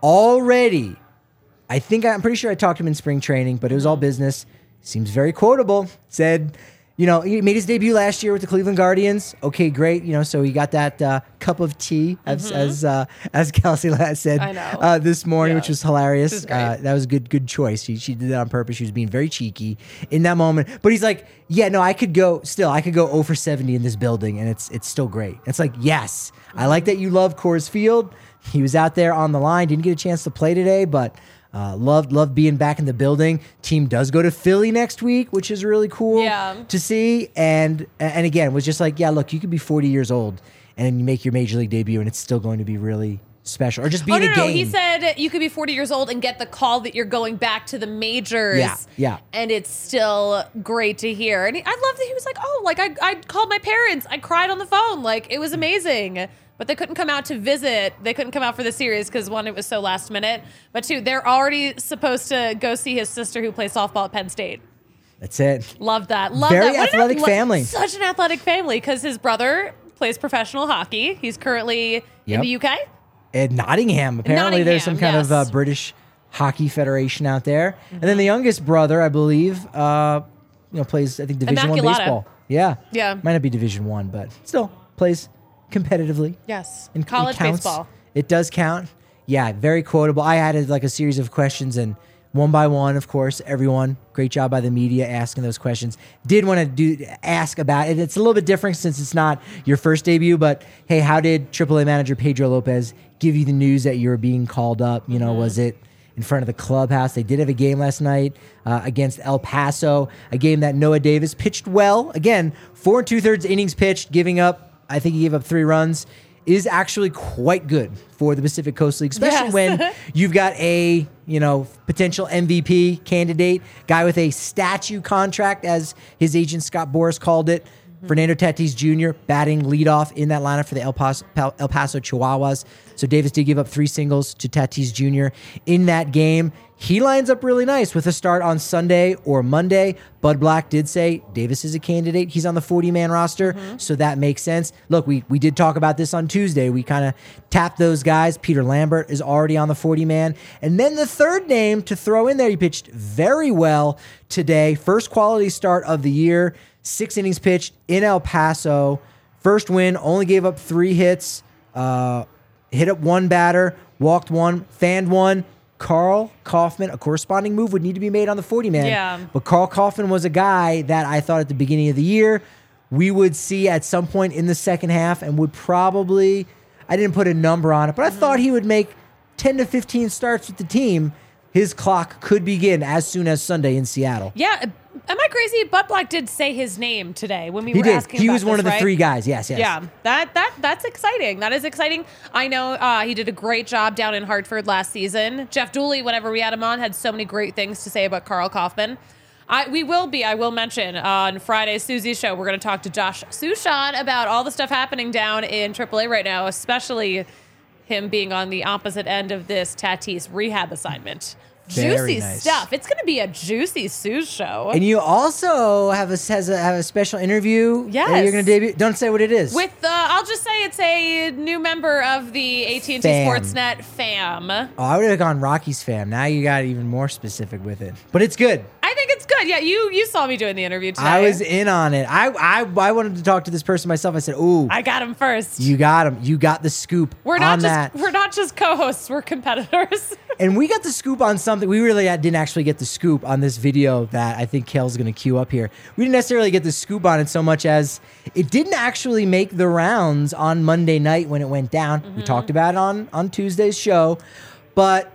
already. I think I'm pretty sure I talked to him in spring training, but it was all business. Seems very quotable. Said, you know, he made his debut last year with the Cleveland Guardians. Okay, great. You know, so he got that uh, cup of tea, as mm-hmm. as uh, as Kelsey said I know. Uh, this morning, Yeah. which was hilarious. This is great. Uh, that was a good good choice. She she did that on purpose. She was being very cheeky in that moment. But he's like, yeah, no, I could go still. I could go zero for seventy in this building, and it's it's still great. It's like, yes, I like that you love Coors Field. He was out there on the line. Didn't get a chance to play today, but. Uh, loved loved being back in the building. Team does go to Philly next week, which is really cool Yeah. to see. And and again, was just like, yeah, look, you could be forty years old and then you make your major league debut, and it's still going to be really special, or just be Oh, in no, a no, game. no. He said you could be forty years old and get the call that you're going back to the majors. Yeah, yeah. And it's still great to hear. And he, I love that he was like, oh, like I, I called my parents. I cried on the phone. Like, it was amazing. But they couldn't come out to visit. They couldn't come out for the series because, one, it was so last minute. But, two, they're already supposed to go see his sister who plays softball at Penn State. That's it. Love that. Love Very that. What an athletic athle- family. Such an athletic family because his brother plays professional hockey. He's currently in Yep. the U K. At Nottingham, apparently there's some Nottingham, kind of yes. uh, British hockey federation out there. And then the youngest brother, I believe, uh, you know, plays I think Division One Immaculata. baseball. Yeah, Yeah. might not be Division One, but still plays competitively. Yes. And College it counts. baseball. It does count. Yeah, very quotable. I had like a series of questions, and one by one, of course, everyone. Great job by the media asking those questions. Did want to do ask about it. It's a little bit different since it's not your first debut, but hey, how did triple A manager Pedro Lopez give you the news that you were being called up? You know, Mm-hmm. was it in front of the clubhouse? They did have a game last night uh, against El Paso, a game that Noah Davis pitched well. Again, four and two thirds innings pitched, giving up. I think he gave up three runs is actually quite good for the Pacific Coast League, especially Yes. when you've got a, you know, potential M V P candidate, guy with a statue contract, as his agent Scott Boras called it. Fernando Tatis Junior batting leadoff in that lineup for the El Paso, El Paso Chihuahuas. So Davis did give up three singles to Tatis Junior in that game. He lines up really nice with a start on Sunday or Monday. Bud Black did say Davis is a candidate. He's on the forty-man roster, mm-hmm. so that makes sense. Look, we we did talk about this on Tuesday. We kind of tapped those guys. Peter Lambert is already on the forty-man. And then the third name to throw in there, he pitched very well today. First quality start of the year. Six innings pitched in El Paso. First win, only gave up three hits. Uh, hit up one batter, walked one, fanned one. Carl Kaufman, a corresponding move would need to be made on the forty-man. Yeah. But Carl Kaufman was a guy that I thought at the beginning of the year we would see at some point in the second half and would probably, I didn't put a number on it, but I mm-hmm. thought he would make ten to fifteen starts with the team. His clock could begin as soon as Sunday in Seattle. Yeah. Am I crazy? Bud Black did say his name today when we he were did. asking He about was one this, of the right? three guys. Yes, yes. Yeah, that that that's exciting. That is exciting. I know uh, he did a great job down in Hartford last season. Jeff Dooley, whenever we had him on, had so many great things to say about Carl Kaufman. I, we will be, I will mention, on Friday's Susie's show, we're going to talk to Josh Sushan about all the stuff happening down in triple A right now, especially him being on the opposite end of this Tatis rehab assignment. Very Juicy nice. stuff. It's going to be a juicy Suze show. And you also have a has a, have a special interview. Yes. that you're going to debut. Don't say what it is. With, uh, I'll just say it's a new member of the A T and T Fam. Sportsnet fam. oh, I would have gone Rocky's fam. Now you got even more specific with it, but it's good. I think it's good. Yeah, you you saw me doing the interview today. I was in on it. I, I I wanted to talk to this person myself. I said, "Ooh, I got him first. you got him. You got the scoop we're not on just that." we're not just co-hosts. We're competitors. And we got the scoop on something. We really didn't actually get the scoop on this video that I think Kel's going to queue up here. We didn't necessarily get the scoop on it so much as it didn't actually make the rounds on Monday night when it went down. Mm-hmm. We talked about it on, on Tuesday's show, but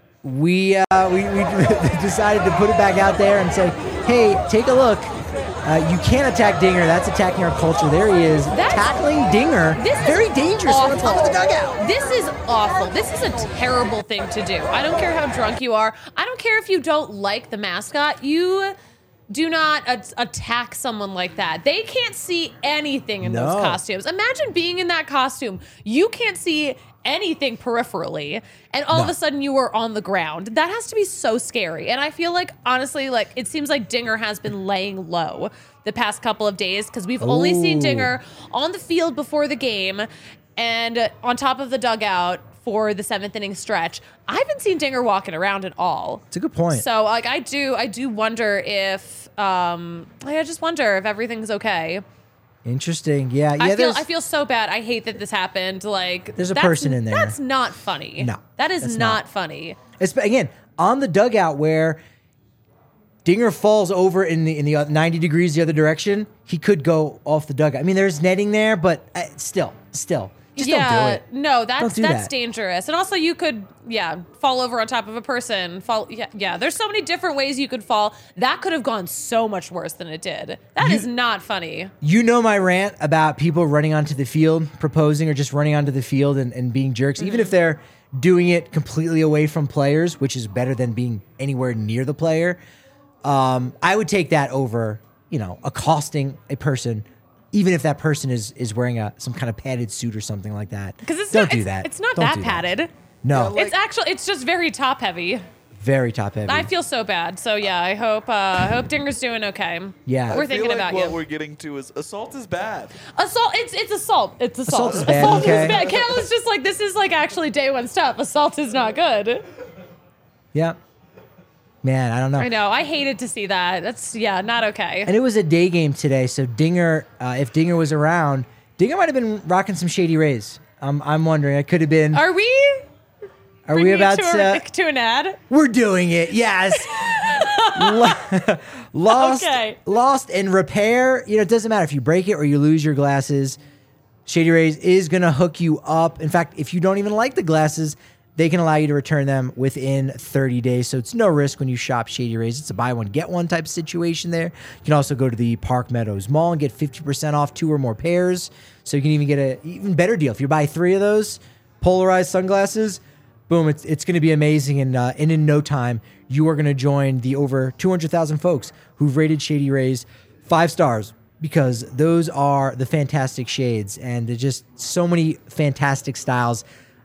we, uh, we, we decided to put it back out there and say, hey, take a look. Uh, you can't attack Dinger. That's attacking our culture. There he is. That's- tackling Dinger. This is Very dangerous on the awful. top of the dugout. This is awful. This is a terrible thing to do. I don't care how drunk you are. I don't care if you don't like the mascot. You do not a- attack someone like that. They can't see anything in those No. costumes. Imagine being in that costume. You can't see anything peripherally, and all of No. a sudden you are on the ground. That has to be so scary. And I feel like, honestly, like it seems like Dinger has been laying low the past couple of days because we've only seen Ooh. Dinger on the field before the game and on top of the dugout for the seventh inning stretch. I haven't seen Dinger walking around at all. It's a good point. So like I do I do wonder if um I just wonder if everything's okay. Interesting. Yeah. Yeah. I feel there's- I feel so bad. I hate that this happened. Like There's a that's- person in there. That's not funny. No, That is that's not, not. funny. It's, again, on the dugout where Dinger falls over in the in the ninety degrees the other direction, he could go off the dugout. I mean, there's netting there, but uh, still, still, just yeah, don't do it. no, that's Don't do that's that. dangerous. And also, you could, yeah, fall over on top of a person. Fall, yeah, yeah. There's so many different ways you could fall. That could have gone so much worse than it did. That You- is not funny. You know my rant about people running onto the field, proposing, or just running onto the field and, and being jerks, even if they're doing it completely away from players, which is better than being anywhere near the player. Um, I would take that over, you know, accosting a person, even if that person is is wearing a some kind of padded suit or something like that. Because it's don't not, do it's, that. It's not Don't that do padded. No, Yeah, It's actually, it's just very top heavy. very top heavy. I feel so bad. So yeah, I hope, uh, I hope Dinger's doing okay. Yeah. we're I feel thinking like about what you. we're getting to is assault is bad. Assault, it's it's assault. It's assault. Assault is bad, okay. is bad. Kale is just like, this is like actually day one stuff. Assault is not good. yeah. Man, I don't know. I know. I hated to see that. That's yeah, not okay. And it was a day game today, so Dinger, uh, if Dinger was around, Dinger might have been rocking some Shady Rays. I'm, I'm wondering. It could have been. Are we? Are we bringing about to, to? a, to an ad? We're doing it. Yes. Lo- lost, Okay. lost, and repair. You know, it doesn't matter if you break it or you lose your glasses. Shady Rays is gonna hook you up. In fact, if you don't even like the glasses, they can allow you to return them within thirty days. So it's no risk when you shop Shady Rays. It's a buy one, get one type of situation there. You can also go to the Park Meadows Mall and get fifty percent off two or more pairs. So you can even get an even better deal. If you buy three of those polarized sunglasses, boom, it's, it's going to be amazing. And, uh, and in no time, you are going to join the over two hundred thousand folks who've rated Shady Rays five stars, because those are the fantastic shades, and there's just so many fantastic styles.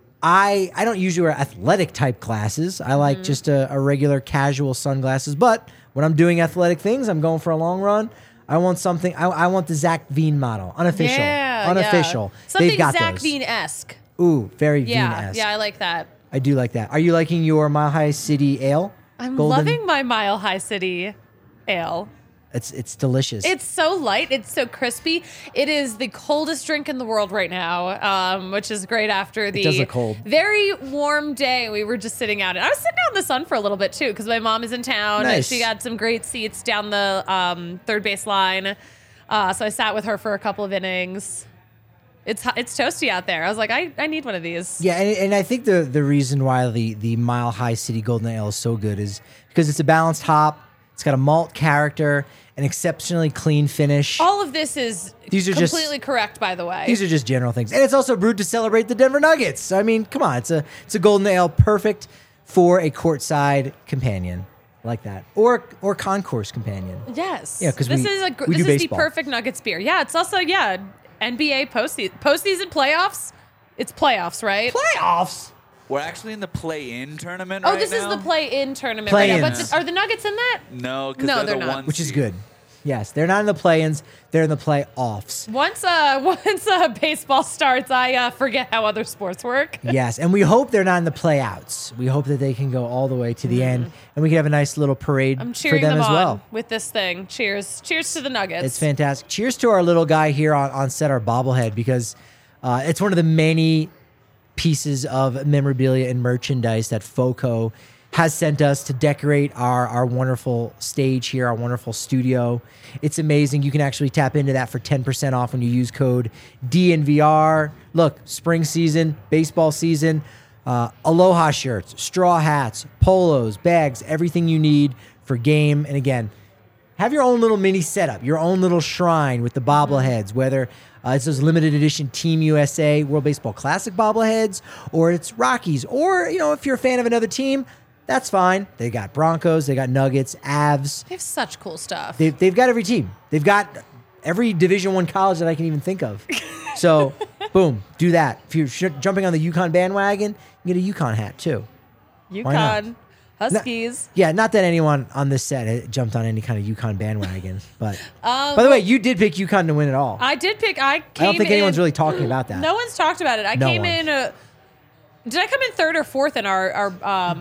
I I don't usually wear athletic type glasses. I like Mm-hmm. just a, a regular casual sunglasses. But when I'm doing athletic things, I'm going for a long run. I want something. I, I want the Zach Veen model, unofficial, Yeah, unofficial. yeah. Something They've got Zach those. Veen-esque. Ooh, very Yeah, Veen-esque. yeah, I like that. I do like that. Are you liking your Mile High City Ale? I'm Golden? loving my Mile High City ale. It's it's delicious. It's so light. It's so crispy. It is the coldest drink in the world right now, um, which is great after the does look cold. very warm day. We were just sitting out. And I was sitting out in the sun for a little bit, too, because my mom is in town. Nice. She got some great seats down the um, third base line. Uh, so I sat with her for a couple of innings. It's hot- it's toasty out there. I was like, I, I need one of these. Yeah, and, and I think the the reason why the the Mile High City Golden Ale is so good is because it's a balanced hop. It's got a malt character, an exceptionally clean finish. All of this is These are just- completely correct, by the way. These are just general things, and it's also brewed to celebrate the Denver Nuggets. I mean, come on, it's a it's a golden ale, perfect for a courtside companion like that, or or concourse companion. Yes. Yeah, 'cause this we- is a gr- we this do is baseball. the perfect Nuggets beer. Yeah, it's also yeah N B A postseason postseason playoffs. It's playoffs, right? Playoffs. We're actually in the play-in tournament oh, right this now. is the play-in tournament right now. But Play-ins. th- are the Nuggets in that? No, because No, they're, they're the not. one Which is seed. good. Yes, they're not in the play-ins; they're in the playoffs. Once uh once uh baseball starts, I uh, forget how other sports work. Yes, and we hope they're not in the playouts. We hope that they can go all the way to the end, and we can have a nice little parade Mm-hmm. I'm for cheering them, them as on well. with this thing. Cheers! Cheers to the Nuggets. It's fantastic. Cheers to our little guy here on, on set, our bobblehead, because uh, it's one of the many pieces of memorabilia and merchandise that FOCO has sent us to decorate our, our wonderful stage here, our wonderful studio. It's amazing. You can actually tap into that for ten percent off when you use code D N V R. Look, spring season, baseball season, uh, Aloha shirts, straw hats, polos, bags, everything you need for game. And again, have your own little mini setup, your own little shrine with the bobbleheads, whether uh, it's those limited edition Team U S A World Baseball Classic bobbleheads, or it's Rockies, or, you know, if you're a fan of another team, that's fine. They got Broncos, they got Nuggets, Avs. They have such cool stuff. They've, they've got every team. They've got every Division One college that I can even think of. So, boom, do that. If you're sh- jumping on the UConn bandwagon, you get a UConn hat too. not? UConn Huskies. Yeah, not that anyone on this set had jumped on any kind of UConn bandwagon, but Um, by the way, you did pick UConn to win it all. I did pick. I came I don't think in, anyone's really talking about that. No one's talked about it. I No came one. in. Uh, did I come in third or fourth in our our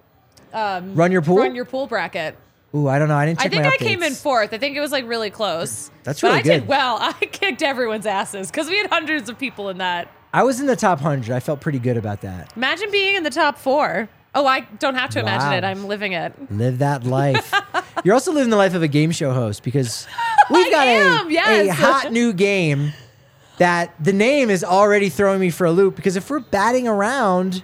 um, Run your pool. run your pool bracket? Ooh, I don't know. I didn't I check think my I came in updates. fourth. I think it was like really close. That's but really I did good. well. I kicked everyone's asses because we had hundreds of people in that. I was in the top one hundred. I felt pretty good about that. Imagine being in the top four. Oh, I don't have to imagine Wow. it. I'm living it. Live that life. You're also living the life of a game show host, because we've I got am, a, yes. a hot new game that the name is already throwing me for a loop, because if we're batting around,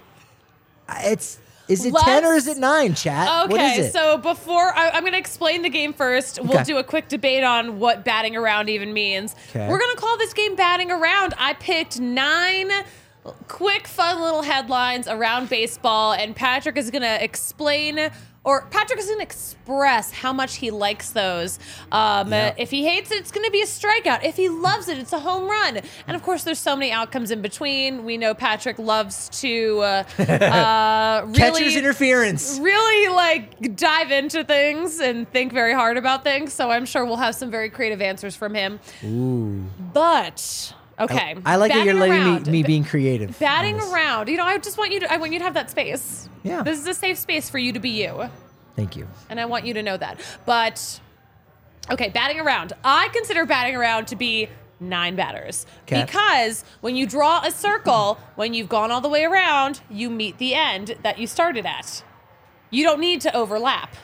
it's is it ten or is it nine, chat? What is Okay, it? so before I, I'm going to explain the game first, we'll Okay. do a quick debate on what batting around even means. Okay. We're going to call this game batting around. I picked nine quick, fun little headlines around baseball, and Patrick is going to explain. Or Patrick is going to express how much he likes those. Um, Yeah. uh, if he hates it, it's going to be a strikeout. If he loves it, it's a home run. And of course, there's so many outcomes in between. We know Patrick loves to uh, uh, really Catcher's interference. really like dive into things and think very hard about things. So I'm sure we'll have some very creative answers from him. Ooh. But okay, I like that batting you're letting around. me, me being creative. on batting this. around. You know, I just want you to. I want you to have that space. Yeah. This is a safe space for you to be you, Thank you. and I want you to know that. But okay, batting around. I consider batting around to be nine batters. Okay. Because when you draw a circle, when you've gone all the way around, you meet the end that you started at. You don't need to overlap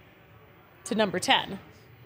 to number ten.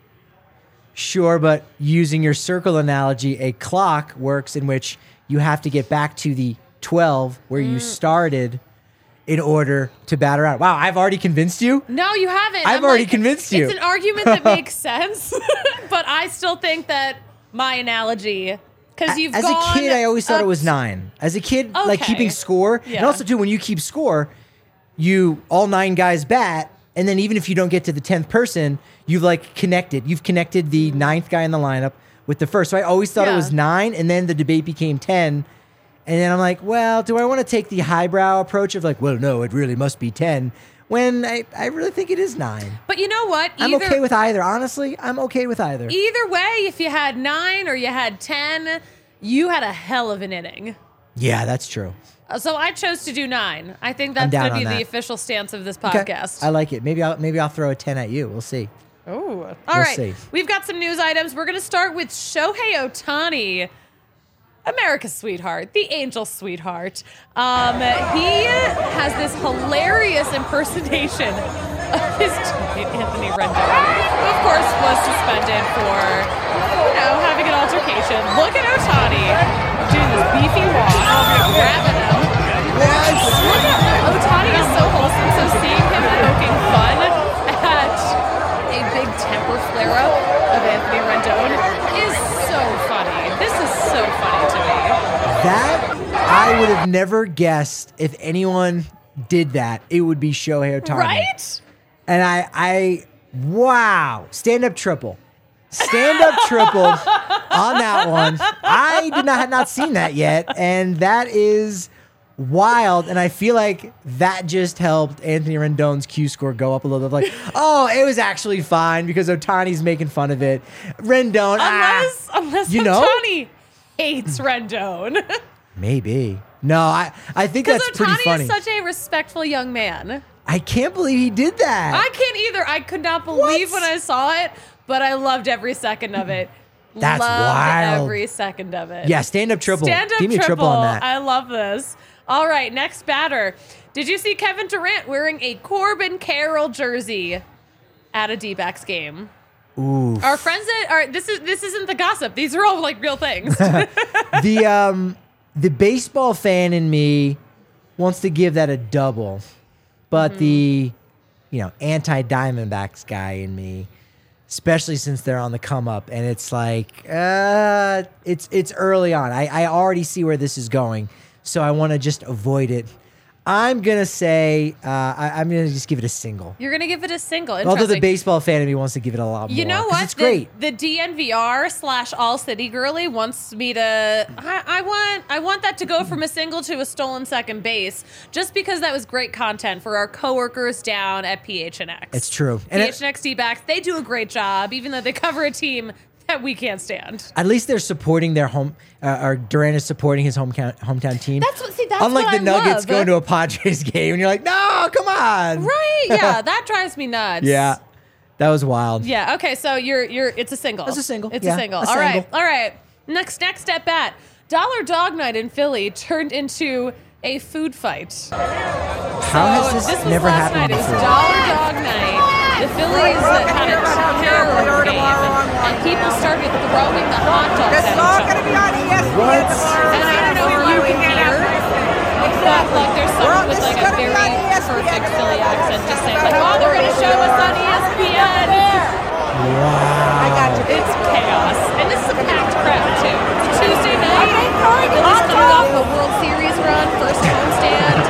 Sure, but using your circle analogy, a clock works in which you have to get back to the twelve where Mm. you started in order to batter out. Wow, I've already convinced you? No, you haven't. I've I'm already like, convinced you. It's an argument that makes sense, but I still think that my analogy, because you've As gone a kid, I always thought up it was nine. As a kid, like Okay. keeping score. And Yeah. also, too, when you keep score, you all nine guys bat. And then even if you don't get to the tenth person, you've like connected. You've connected the ninth guy in the lineup with the first. So I always thought it Yeah. was nine. And then the debate became ten. And then I'm like, well, do I want to take the highbrow approach of like, well, no, it really must be ten, when I, I really think it is nine. But you know what? I'm Either, okay with either. Honestly, I'm okay with either. either way, if you had nine or you had ten, you had a hell of an inning. Yeah, that's true. Uh, So I chose to do nine. I think I'm that's down going to be on the that. official stance of this Okay. podcast. I like it. Maybe I'll maybe I'll throw a ten at you. We'll see. Oh, all We'll right. see. We've got some news items. We're going to start with Shohei Ohtani, America's sweetheart, the angel sweetheart. Um, he has this hilarious impersonation of his teammate Anthony Rendon, who of course was suspended for, you know, having an altercation. Look at Ohtani doing this beefy walk, grabbing him. Look at Ohtani is so wholesome. So seeing him poking fun at a big temper flare-up of Anthony Rendon is so funny. This is so funny to me. That I would have never guessed if anyone did that. It would be Shohei Ohtani. Right? And I, I, wow, stand up triple, stand up triple on that one. I did not had not seen that yet, and that is wild. And I feel like that just helped Anthony Rendon's Q score go up a little bit. Like, oh, it was actually fine because Ohtani's making fun of it. Rendon, Unless, ah, unless you know? Ohtani hates Rendon. maybe. No, I, I think Because that's pretty Ohtani funny. is such a respectful young man. I can't believe he did that. I can't either. I could not believe What? when I saw it, but I loved every second of it. That's loved wild. every second of it. yeah, stand up triple. Stand up Give me a triple on that. I love this. All right, next batter. Did you see Kevin Durant wearing a Corbin Carroll jersey at a D-backs game? Ooh. Our friends at our this is this isn't the gossip. These are all like real things. the um the baseball fan in me wants to give that a double, but the you know anti Diamondbacks guy in me, especially since they're on the come up, and it's like uh it's it's early on. I I already see where this is going, so I want to just avoid it. I'm gonna say uh, I, I'm gonna just give it a single. You're gonna give it a single. Although the Interesting. baseball fan in me wants to give it a lot more. You know 'cause what? It's the, great. The D N V R slash All City Girly wants me to. I, I want. I want that to go from a single to a stolen second base, just because that was great content for our coworkers down at P H N X. It's true. And it- P H N X D-backs, they do a great job, even though they cover a team that we can't stand. At least they're supporting their home, uh, or Durant is supporting his hometown hometown team. That's what. See, that's Unlike what the I Nuggets love. going to a Padres game, and you're like, no, come on. Right? Yeah, that drives me nuts. Yeah, that was wild. Yeah. Okay. So you're you're. It's a single. It's a single, It's yeah, a single. a All right. single. All right. Next next step at Dollar Dog Night in Philly turned into a food fight. How has So this, this was never last happened night. It was before? Dollar Dog Night. The Phillies had a terror game, and people started throwing the hot dogs This at is all each going to other. be on E S P N What? tomorrow. And I don't know if you can hear, but like there's someone with like a very perfect Philly accent just saying like, "Oh, they're gonna show us on E S P N." Wow. I got you. It's chaos, and this is a packed crowd too. It's a Tuesday night. Phillies coming off a World Series run, first homestand,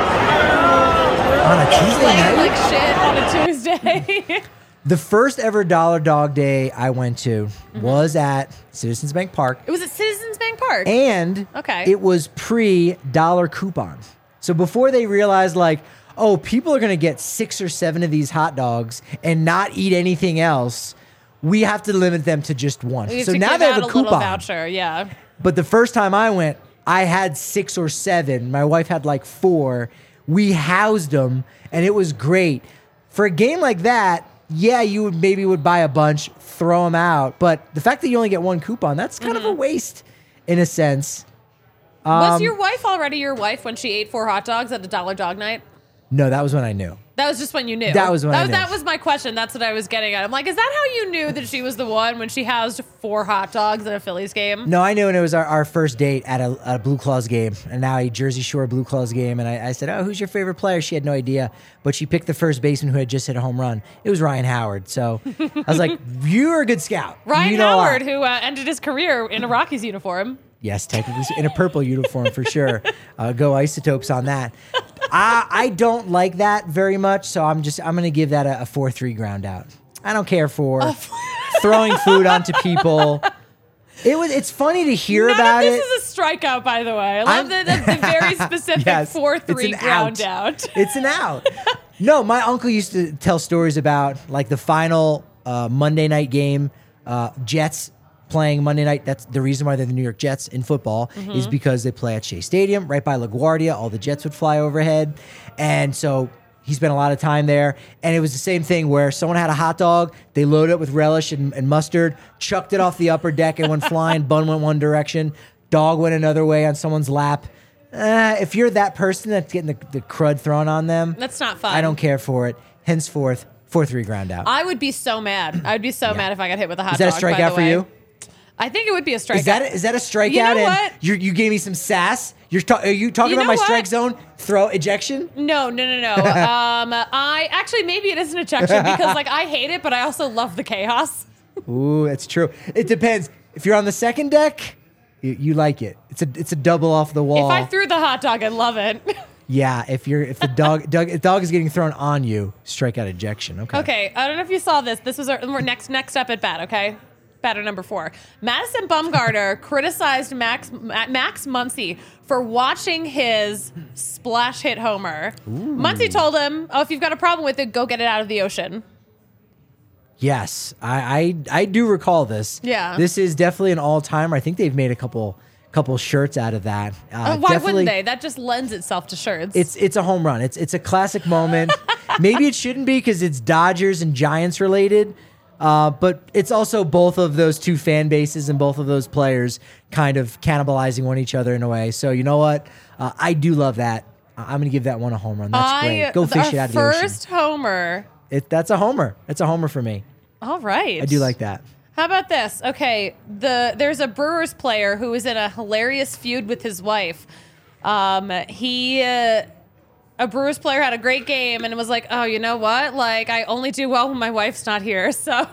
On a Tuesday playing night? like shit on a Tuesday. The first ever Dollar Dog Day I went to Mm-hmm. was at Citizens Bank Park, It was at Citizens Bank Park. and Okay. it was pre-dollar coupon. So before they realized, like, oh, people are going to get six or seven of these hot dogs and not eat anything else, we have to limit them to just one. We have So to now give they have out a a little coupon. voucher. Yeah. But the first time I went, I had six or seven. My wife had like four. We housed them, and it was great. For a game like that, yeah, you would maybe would buy a bunch, throw them out. But the fact that you only get one coupon, that's kind Mm-hmm. of a waste in a sense. Was Um, your wife already your wife when she ate four hot dogs at a Dollar Dog Night? No, that was when I knew. That was just when you knew. That was when that I was, knew. That was my question. That's what I was getting at. I'm like, is that how you knew that she was the one when she housed four hot dogs at a Phillies game? No, I knew, and it was our, our first date at a, a Blue Claws game, and now a Jersey Shore Blue Claws game. And I, I said, "Oh, who's your favorite player?" She had no idea, but she picked the first baseman who had just hit a home run. It was Ryan Howard. So I was like, "You're a good scout." Ryan you know a lot." Howard, who uh, ended his career in a Rockies uniform. Yes, technically in a purple uniform for sure. Uh, go Isotopes on that. I I don't like that very much, so I'm just I'm gonna give that a, a four three ground out. I don't care for throwing food onto people. It was it's funny to hear None about of this it. is a strikeout, by the way. I love I'm- the, the, the very specific Yes, four it's three an ground out. out. It's an out. No, my uncle used to tell stories about like the final uh, Monday night game, uh, Jets playing Monday night. That's the reason why they're the New York Jets in football Mm-hmm. is because they play at Shea Stadium right by LaGuardia. All the Jets would fly overhead. And so he spent a lot of time there. And it was the same thing where someone had a hot dog, they loaded it with relish and, and mustard, chucked it off the upper deck and went flying. Bun went one direction, dog went another way on someone's lap. Uh, if you're that person that's getting the, the crud thrown on them, That's not fun. I don't care for it. Henceforth, four three ground out. I would be so mad. I would be so mad if I got hit with a hot Is that a dog. by strikeout the for way. you? I think it would be a strikeout. Is that a, is that a strikeout? You know and what? You you gave me some sass. You're ta- are you talking You about know my what? strike zone throw ejection? No, no, no, no. um, I actually maybe it is an ejection because like I hate it, but I also love the chaos. Ooh, that's true. It depends. If you're on the second deck, you, you like it. It's a it's a double off the wall. If I threw the hot dog, I love it. yeah. If you're if the dog dog if dog is getting thrown on you, strikeout ejection. Okay. Okay, I don't know if you saw this. This was our we're next next up at bat. Okay, batter number four. Madison Bumgarner criticized Max Ma- Max Muncy for watching his splash hit homer. Muncy told him, "Oh, if you've got a problem with it, go get it out of the ocean." Yes, I, I I do recall this. Yeah. This is definitely an all timer. I think they've made a couple couple shirts out of that. Uh, Uh, why definitely- wouldn't they? That just lends itself to shirts. It's it's a home run. It's it's a classic moment. Maybe it shouldn't be because it's Dodgers and Giants related, uh, but it's also both of those two fan bases and both of those players kind of cannibalizing one each other in a way. So you know what? Uh, I do love that. I- I'm gonna give that one a home run. That's I, great. Go fish our it out of the ocean. First homer. It, that's a homer. It's a homer for me. All right. I do like that. How about this? Okay, the there's a Brewers player who is in a hilarious feud with his wife. Um, he, uh, a Brewers player had a great game and was like, "Oh, you know what? Like, I only do well when my wife's not here." So,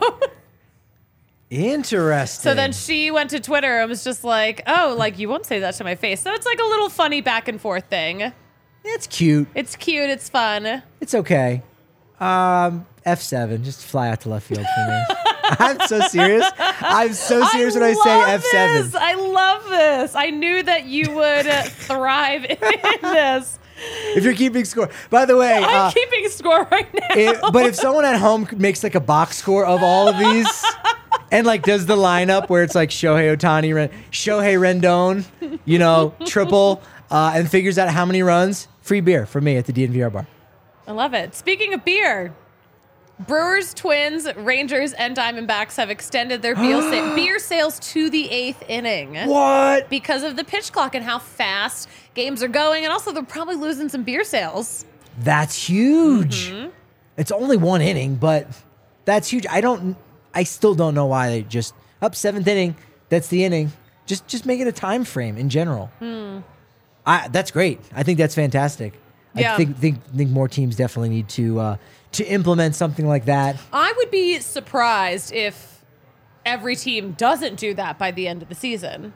Interesting. so then she went to Twitter and was just like, "Oh, like you won't say that to my face." So it's like a little funny back and forth thing. it's cute. It's cute. It's fun. It's okay. Um, F seven, just fly out to left field for me. I'm so serious. I'm so serious when I say love F seven. this. I love this. I knew that you would uh, thrive in this. If you're keeping score. By the way, I'm uh, keeping score right now. it, but if someone at home makes like a box score of all of these and like does the lineup where it's like Shohei Ohtani, Ren- Shohei Rendon, you know, triple, uh, and figures out how many runs, free beer for me at the D N V R bar. I love it. Speaking of beer, Brewers, Twins, Rangers, and Diamondbacks have extended their beer, sa- beer sales to the eighth inning. What? Because of the pitch clock and how fast games are going, and also they're probably losing some beer sales. That's huge. Mm-hmm. It's only one inning, but that's huge. I don't. I still don't know why they just up seventh inning. That's the inning. Just just make it a time frame in general. Hmm. I that's great. I think that's fantastic. Yeah. I think think think more teams definitely need to uh, to implement something like that. I would be surprised if every team doesn't do that by the end of the season.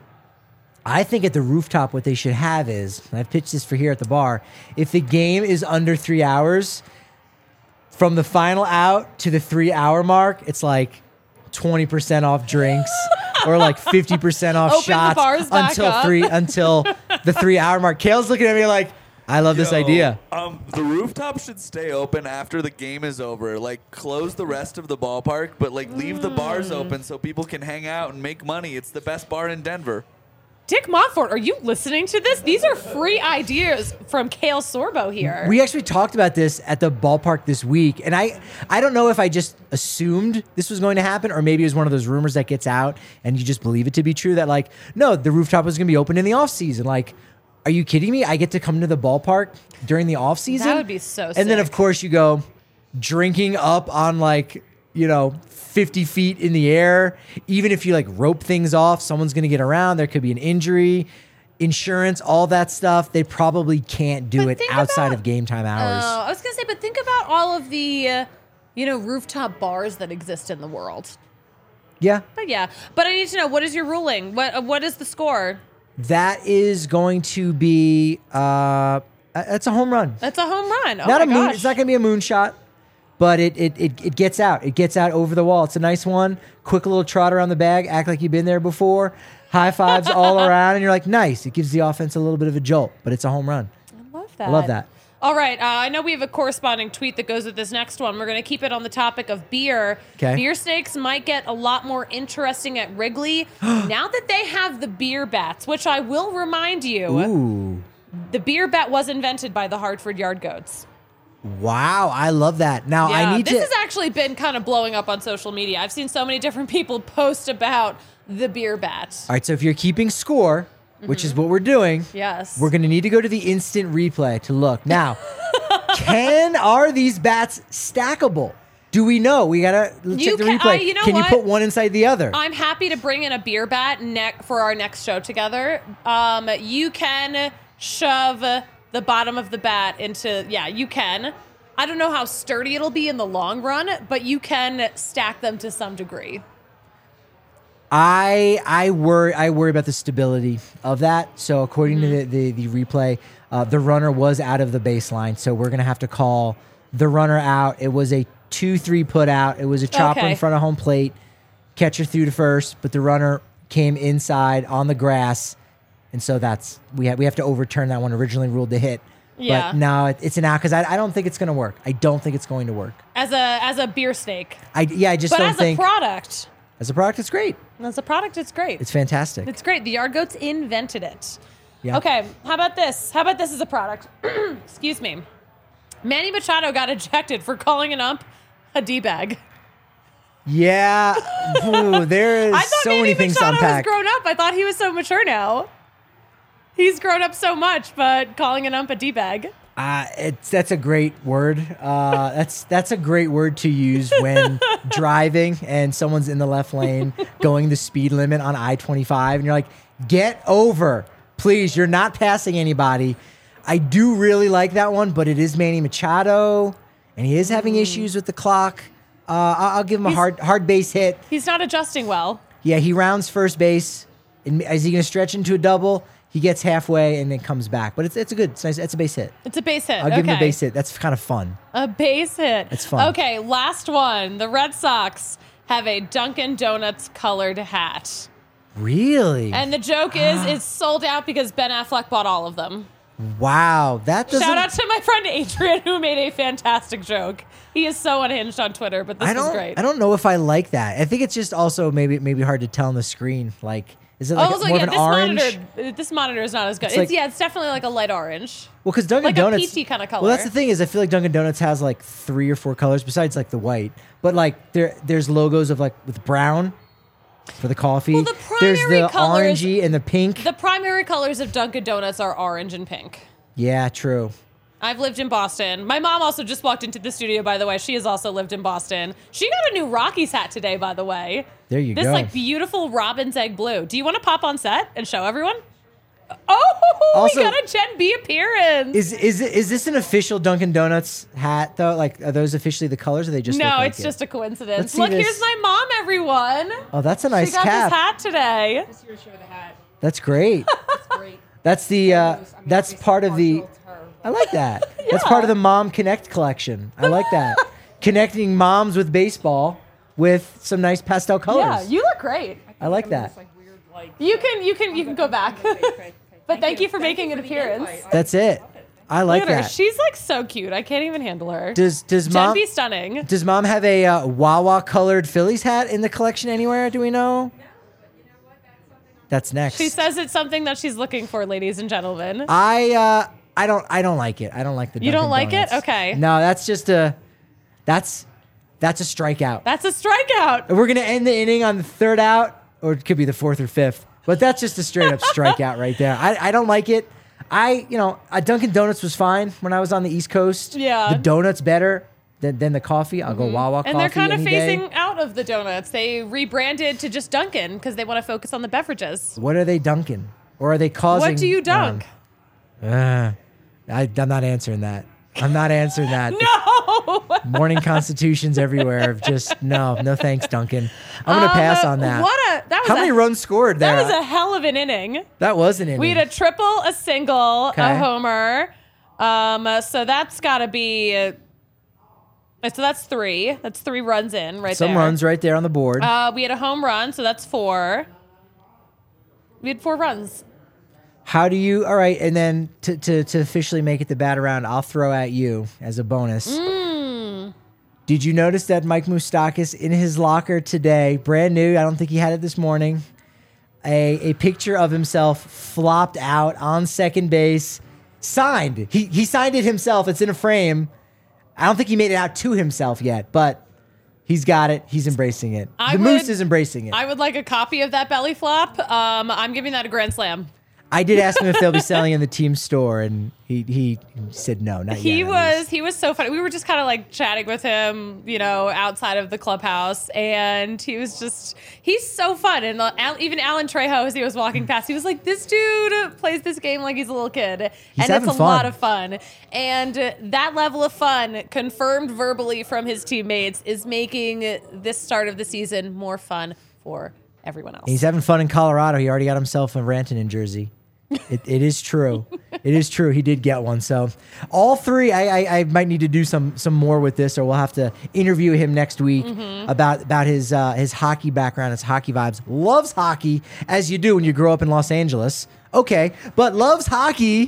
I think at the rooftop, what they should have is, and I've pitched this for here at the bar, if the game is under three hours, from the final out to the three hour mark, it's like twenty percent off drinks or like fifty percent off Open the shots bars back until up. three until the three hour mark. Kale's looking at me like, I love this Yo, idea. Um, the rooftop should stay open after the game is over. Like, close the rest of the ballpark, but like leave the bars Mm. open so people can hang out and make money. It's the best bar in Denver. Dick Montfort, are you listening to this? These are free ideas from Kale Sorbo here. We actually talked about this at the ballpark this week, and I I don't know if I just assumed this was going to happen, or maybe it was one of those rumors that gets out and you just believe it to be true that like, no, the rooftop was going to be open in the off season. Like, Are you kidding me? I get to come to the ballpark during the off season. That would be so And then, sick. of course, you go drinking up on like, you know, fifty feet in the air. Even if you like rope things off, someone's going to get around. There could be an injury, insurance, all that stuff. They probably can't do But it think outside about- of game time hours. Oh, I was gonna say, but think about all of the, uh, you know, rooftop bars that exist in the world. Yeah. But yeah, but I need to know, what is your ruling? What uh, what is the score? That is going to be, uh, that's a home run. That's a home run. Oh not my a moon. gosh. It's not going to be a moonshot, but it, it it it gets out. It gets out over the wall. It's a nice one. Quick little trot around the bag. Act like you've been there before. High fives all around, and you're like, nice. It gives the offense a little bit of a jolt, but it's a home run. I love that. I love that. All right. Uh, I know we have a corresponding tweet that goes with this next one. We're going to keep it on the topic of beer. 'Kay. Beer snakes might get a lot more interesting at Wrigley now that they have the beer bats, which I will remind you, Ooh, the beer bat was invented by the Hartford Yard Goats. wow! I love that. Now Yeah, I need this to. has actually been kind of blowing up on social media. I've seen so many different people post about the beer bat. All right, so if you're keeping score, which is what we're doing, Yes. we're going to need to go to the instant replay to look. Now, can are these bats stackable? Do we know? We gotta check You the can- replay. uh, you know can what? you put one inside the other? I'm happy to bring in a beer bat ne- for our next show together. Um, you can shove the bottom of the bat into, yeah, you can. I don't know how sturdy it'll be in the long run, but you can stack them to some degree. I I worry I worry about the stability of that. So according Mm-hmm. to the the, the replay, uh, the runner was out of the baseline. So we're gonna have to call the runner out. It was a two three put out. It was a chopper Okay. in front of home plate. Catcher threw to first, but the runner came inside on the grass, and so that's we have we have to overturn that one. Originally ruled to hit. Yeah. But now it, it's an out because I, I don't think it's going to work. I don't think it's going to work. As a as a beer snake. I yeah I just But don't as think a product, as a product it's great. as a product, it's great. It's fantastic. It's great. The Yard Goats invented it. Yeah. Okay, how about this? How about this as a product? Excuse me. Manny Machado got ejected for calling an ump a D-bag. Yeah, Ooh, there is I thought so Manny many things to Machado was unpack. grown up. I thought he was so mature now. He's grown up so much, but calling an ump a D-bag. Uh, it's that's a great word. Uh, that's that's a great word to use when driving and someone's in the left lane going the speed limit on I twenty-five, and you're like, "Get over, please! You're not passing anybody." I do really like that one, but it is Manny Machado, and he is having issues with the clock. Uh, I'll, I'll give him a He's- hard hard base hit. He's not adjusting well. Yeah, he rounds first base. And is he going to stretch into a double? He gets halfway and then comes back. But it's it's a good, it's nice. It's a base hit. It's a base hit. I'll give him a Okay. base hit. That's kind of fun. A base hit. It's fun. Okay, last one. The Red Sox have a Dunkin' Donuts colored hat. Really? And the joke is it's sold out because Ben Affleck bought all of them. Wow, that doesn't. Shout out to my friend Adrian who made a fantastic joke. He is so unhinged on Twitter, but this I is don't. great. I don't know if I like that. I think it's just also maybe maybe hard to tell on the screen. Like, is it like also, more yeah, of an this orange? monitor this monitor is not as good. It's It's, like- yeah, it's definitely like a light orange. Well, because Dunkin' like a Donuts peachy kinda Well, that's color. the thing is, I feel like Dunkin' Donuts has like three or four colors besides like the white. But like there, there's logos of like with brown for the coffee. Well, the there's primary the colors- orangey and the pink. The primary colors of Dunkin' Donuts are orange and pink. yeah, true. I've lived in Boston. My mom also just walked into the studio, by the way. She has also lived in Boston. She got a new Rockies hat today, by the way. There you this go. like beautiful robin's egg blue. Do you want to pop on set and show everyone? Oh, Also- we got a Gen B appearance. Is is it, is this an official Dunkin' Donuts hat though? Like, are those officially the colors, or they just no, look like it's it? just a Let's coincidence. see Look, this. here's my mom, everyone. Oh, that's a nice she got cap. this hat today. Just here to show the hat. That's great. It's great. That's the uh, I mean, that's obviously part of the. partial to her, I like that. That's part of the Mom Connect collection. I like that. Connecting moms with baseball with some nice pastel colors. Yeah, you look great. I like I'm that. just, like, weird, like, You can you can you can go back. Okay, okay, okay. But thank you for Thank making you an for the appearance. invite. That's it. I like Look at her. that. She's like so cute. I can't even handle her. Does does Gen mom B stunning. does mom have a uh, Wawa colored Phillies hat in the collection anywhere? Do we know? That's next. She says it's something that she's looking for, ladies and gentlemen. I uh I don't I don't like it. I don't like the. You don't Dunkin' like it? Donuts. Okay. No, that's just a that's that's a strikeout. That's a strikeout. We're gonna end the inning on the third out, or it could be the fourth or fifth. But that's just a straight up strikeout right there. I, I don't like it. I, you know, a Dunkin' Donuts was fine when I was on the East Coast. Yeah. The donut's better than, than the coffee. I'll go Wawa coffee And they're kind of any day. phasing out of the donuts. They rebranded to just Dunkin' because they want to focus on the beverages. What are they dunking? Or are they causing? What do you dunk? Um, uh, I, I'm not answering that. I'm not answering that. No. Morning constitutions everywhere of just no, no thanks, Duncan. I'm gonna pass Um, on that. What a that was How a, many runs scored there? That was a hell of an inning. That was an inning. We had a triple, a single, Okay. a homer. Um, uh, so that's got to be. Uh, so that's three. That's three runs in right Some there. runs right there on the board. Uh, we had a home run, so that's four. We had four runs. How do you? All right, and then to, to to officially make it the bat around, I'll throw at you as a bonus. Mm. Did you notice that Mike Moustakas in his locker today, brand new? I don't think he had it this morning. A a picture of himself flopped out on second base, signed. He he signed it himself. It's in a frame. I don't think he made it out to himself yet, but he's got it. He's embracing it. I the Moose would- is embracing it. I would like a copy of that belly flop. Um, I'm giving that a grand slam. I did ask him if they'll be selling in the team store, and he he said no, not He yet. at least. was he was so funny. We were just kind of like chatting with him, you know, outside of the clubhouse, and he was just he's so fun. And uh, Al, even Alan Trejo, as he was walking past, he was like, "This dude plays this game like he's a little kid," He's and having it's a fun. lot of fun. And uh, that level of fun, confirmed verbally from his teammates, is making this start of the season more fun for everyone else. He's having fun in Colorado. He already got himself a Rantanen jersey. It, it is true. It is true. He did get one. So all three, I, I, I might need to do some some more with this, or we'll have to interview him next week Mm-hmm. about about his uh, his hockey background, his hockey vibes. Loves hockey, as you do when you grow up in Los Angeles. Okay, but loves hockey.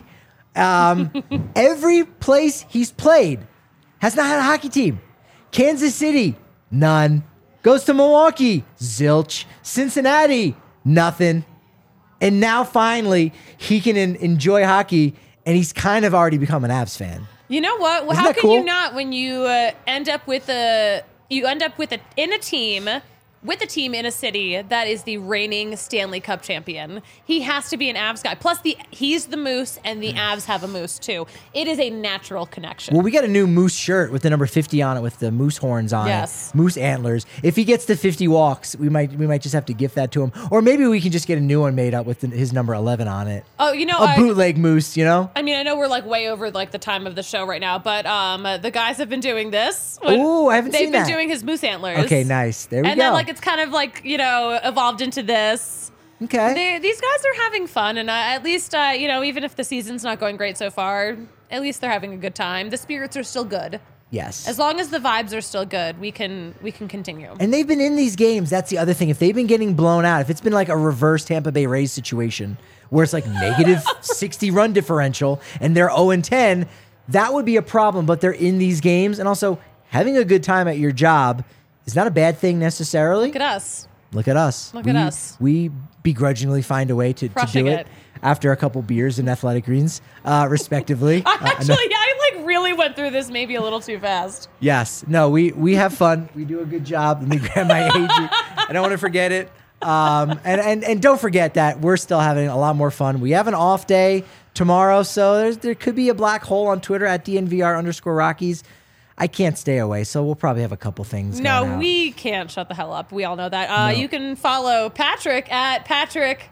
Um, every place he's played has not had a hockey team. Kansas City, none. Goes to Milwaukee, zilch. Cincinnati, nothing. And now finally he can en- enjoy hockey, and he's kind of already become an Avs fan. You know what? Well, Isn't how that can you cool? not when you uh, end up with a you end up with a in a team with a team in a city that is the reigning Stanley Cup champion? He has to be an Avs guy. Plus, the he's the Moose, and the Avs have a Moose too. It is a natural connection. Well, we got a new Moose shirt with the number fifty on it, with the moose horns on Yes. it, moose antlers. If he gets to fifty walks, we might we might just have to gift that to him, or maybe we can just get a new one made up with the, his number eleven on it. oh, you know, A I, bootleg moose, you know. I mean, I know we're like way over like the time of the show right now, but um, uh, the guys have been doing this. Ooh, I haven't They've seen been that. doing his moose antlers. Okay, nice. There we And go. then like it's kind of like you know evolved into this. okay. They, these guys are having fun, and uh, at least uh, you know, even if the season's not going great so far, at least they're having a good time. The spirits are still good. yes. As long as the vibes are still good, we can we can continue. And they've been in these games. That's the other thing. If they've been getting blown out, if it's been like a reverse Tampa Bay Rays situation where it's like negative sixty run differential and they're oh and ten, that would be a problem. But they're in these games. And also, having a good time at your job is not a bad thing necessarily. Look at us. Look at us. Look we, at us. We begrudgingly find a way to, to Crushing do it, it. after a couple beers and athletic greens, uh, respectively. I Uh, no- actually, I like really went through this maybe a little too fast. Yes. No, we we have fun. We do a good job. Let me grab my A G. I don't want to forget it. Um, and, and and don't forget that we're still having a lot more fun. We have an off day tomorrow, so there's there could be a black hole on Twitter at D N V R underscore Rockies. I can't stay away, so we'll probably have a couple things. going No, out. we can't shut the hell up. We all know that. Uh, No. You can follow Patrick at Patrick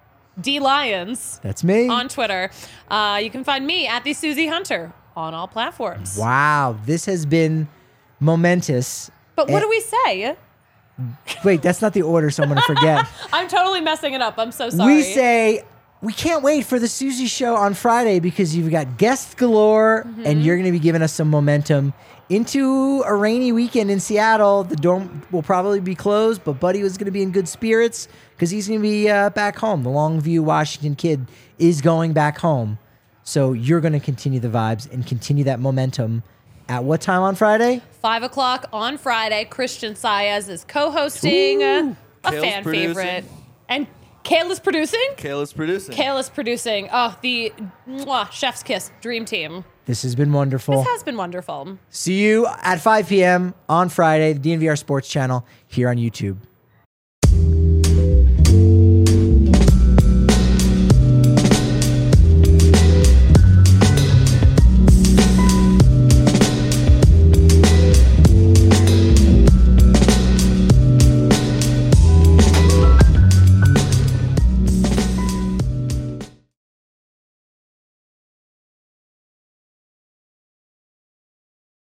D Lyons That's me. on Twitter. Uh, you can find me at the Susie Hunter on all platforms. Wow, this has been momentous. But what Eh, do we say? Wait, that's not the order, so I'm going to forget. I'm totally messing it up. I'm so sorry. We say we can't wait for the Susie show on Friday because you've got guests galore Mm-hmm. and you're going to be giving us some momentum into a rainy weekend in Seattle. The dorm will probably be closed, but Buddy was going to be in good spirits because he's going to be uh, back home. The Longview, Washington kid is going back home. So you're going to continue the vibes and continue that momentum. At what time on Friday? Five o'clock on Friday. Christian Saez is co-hosting. Ooh. A Kale's fan producing. favorite. And Kale is producing? Kale is producing. Kale is producing. Oh, the mwah, chef's kiss. Dream team. This has been wonderful. This has been wonderful. See you at five p.m. on Friday, the D N V R Sports Channel here on YouTube.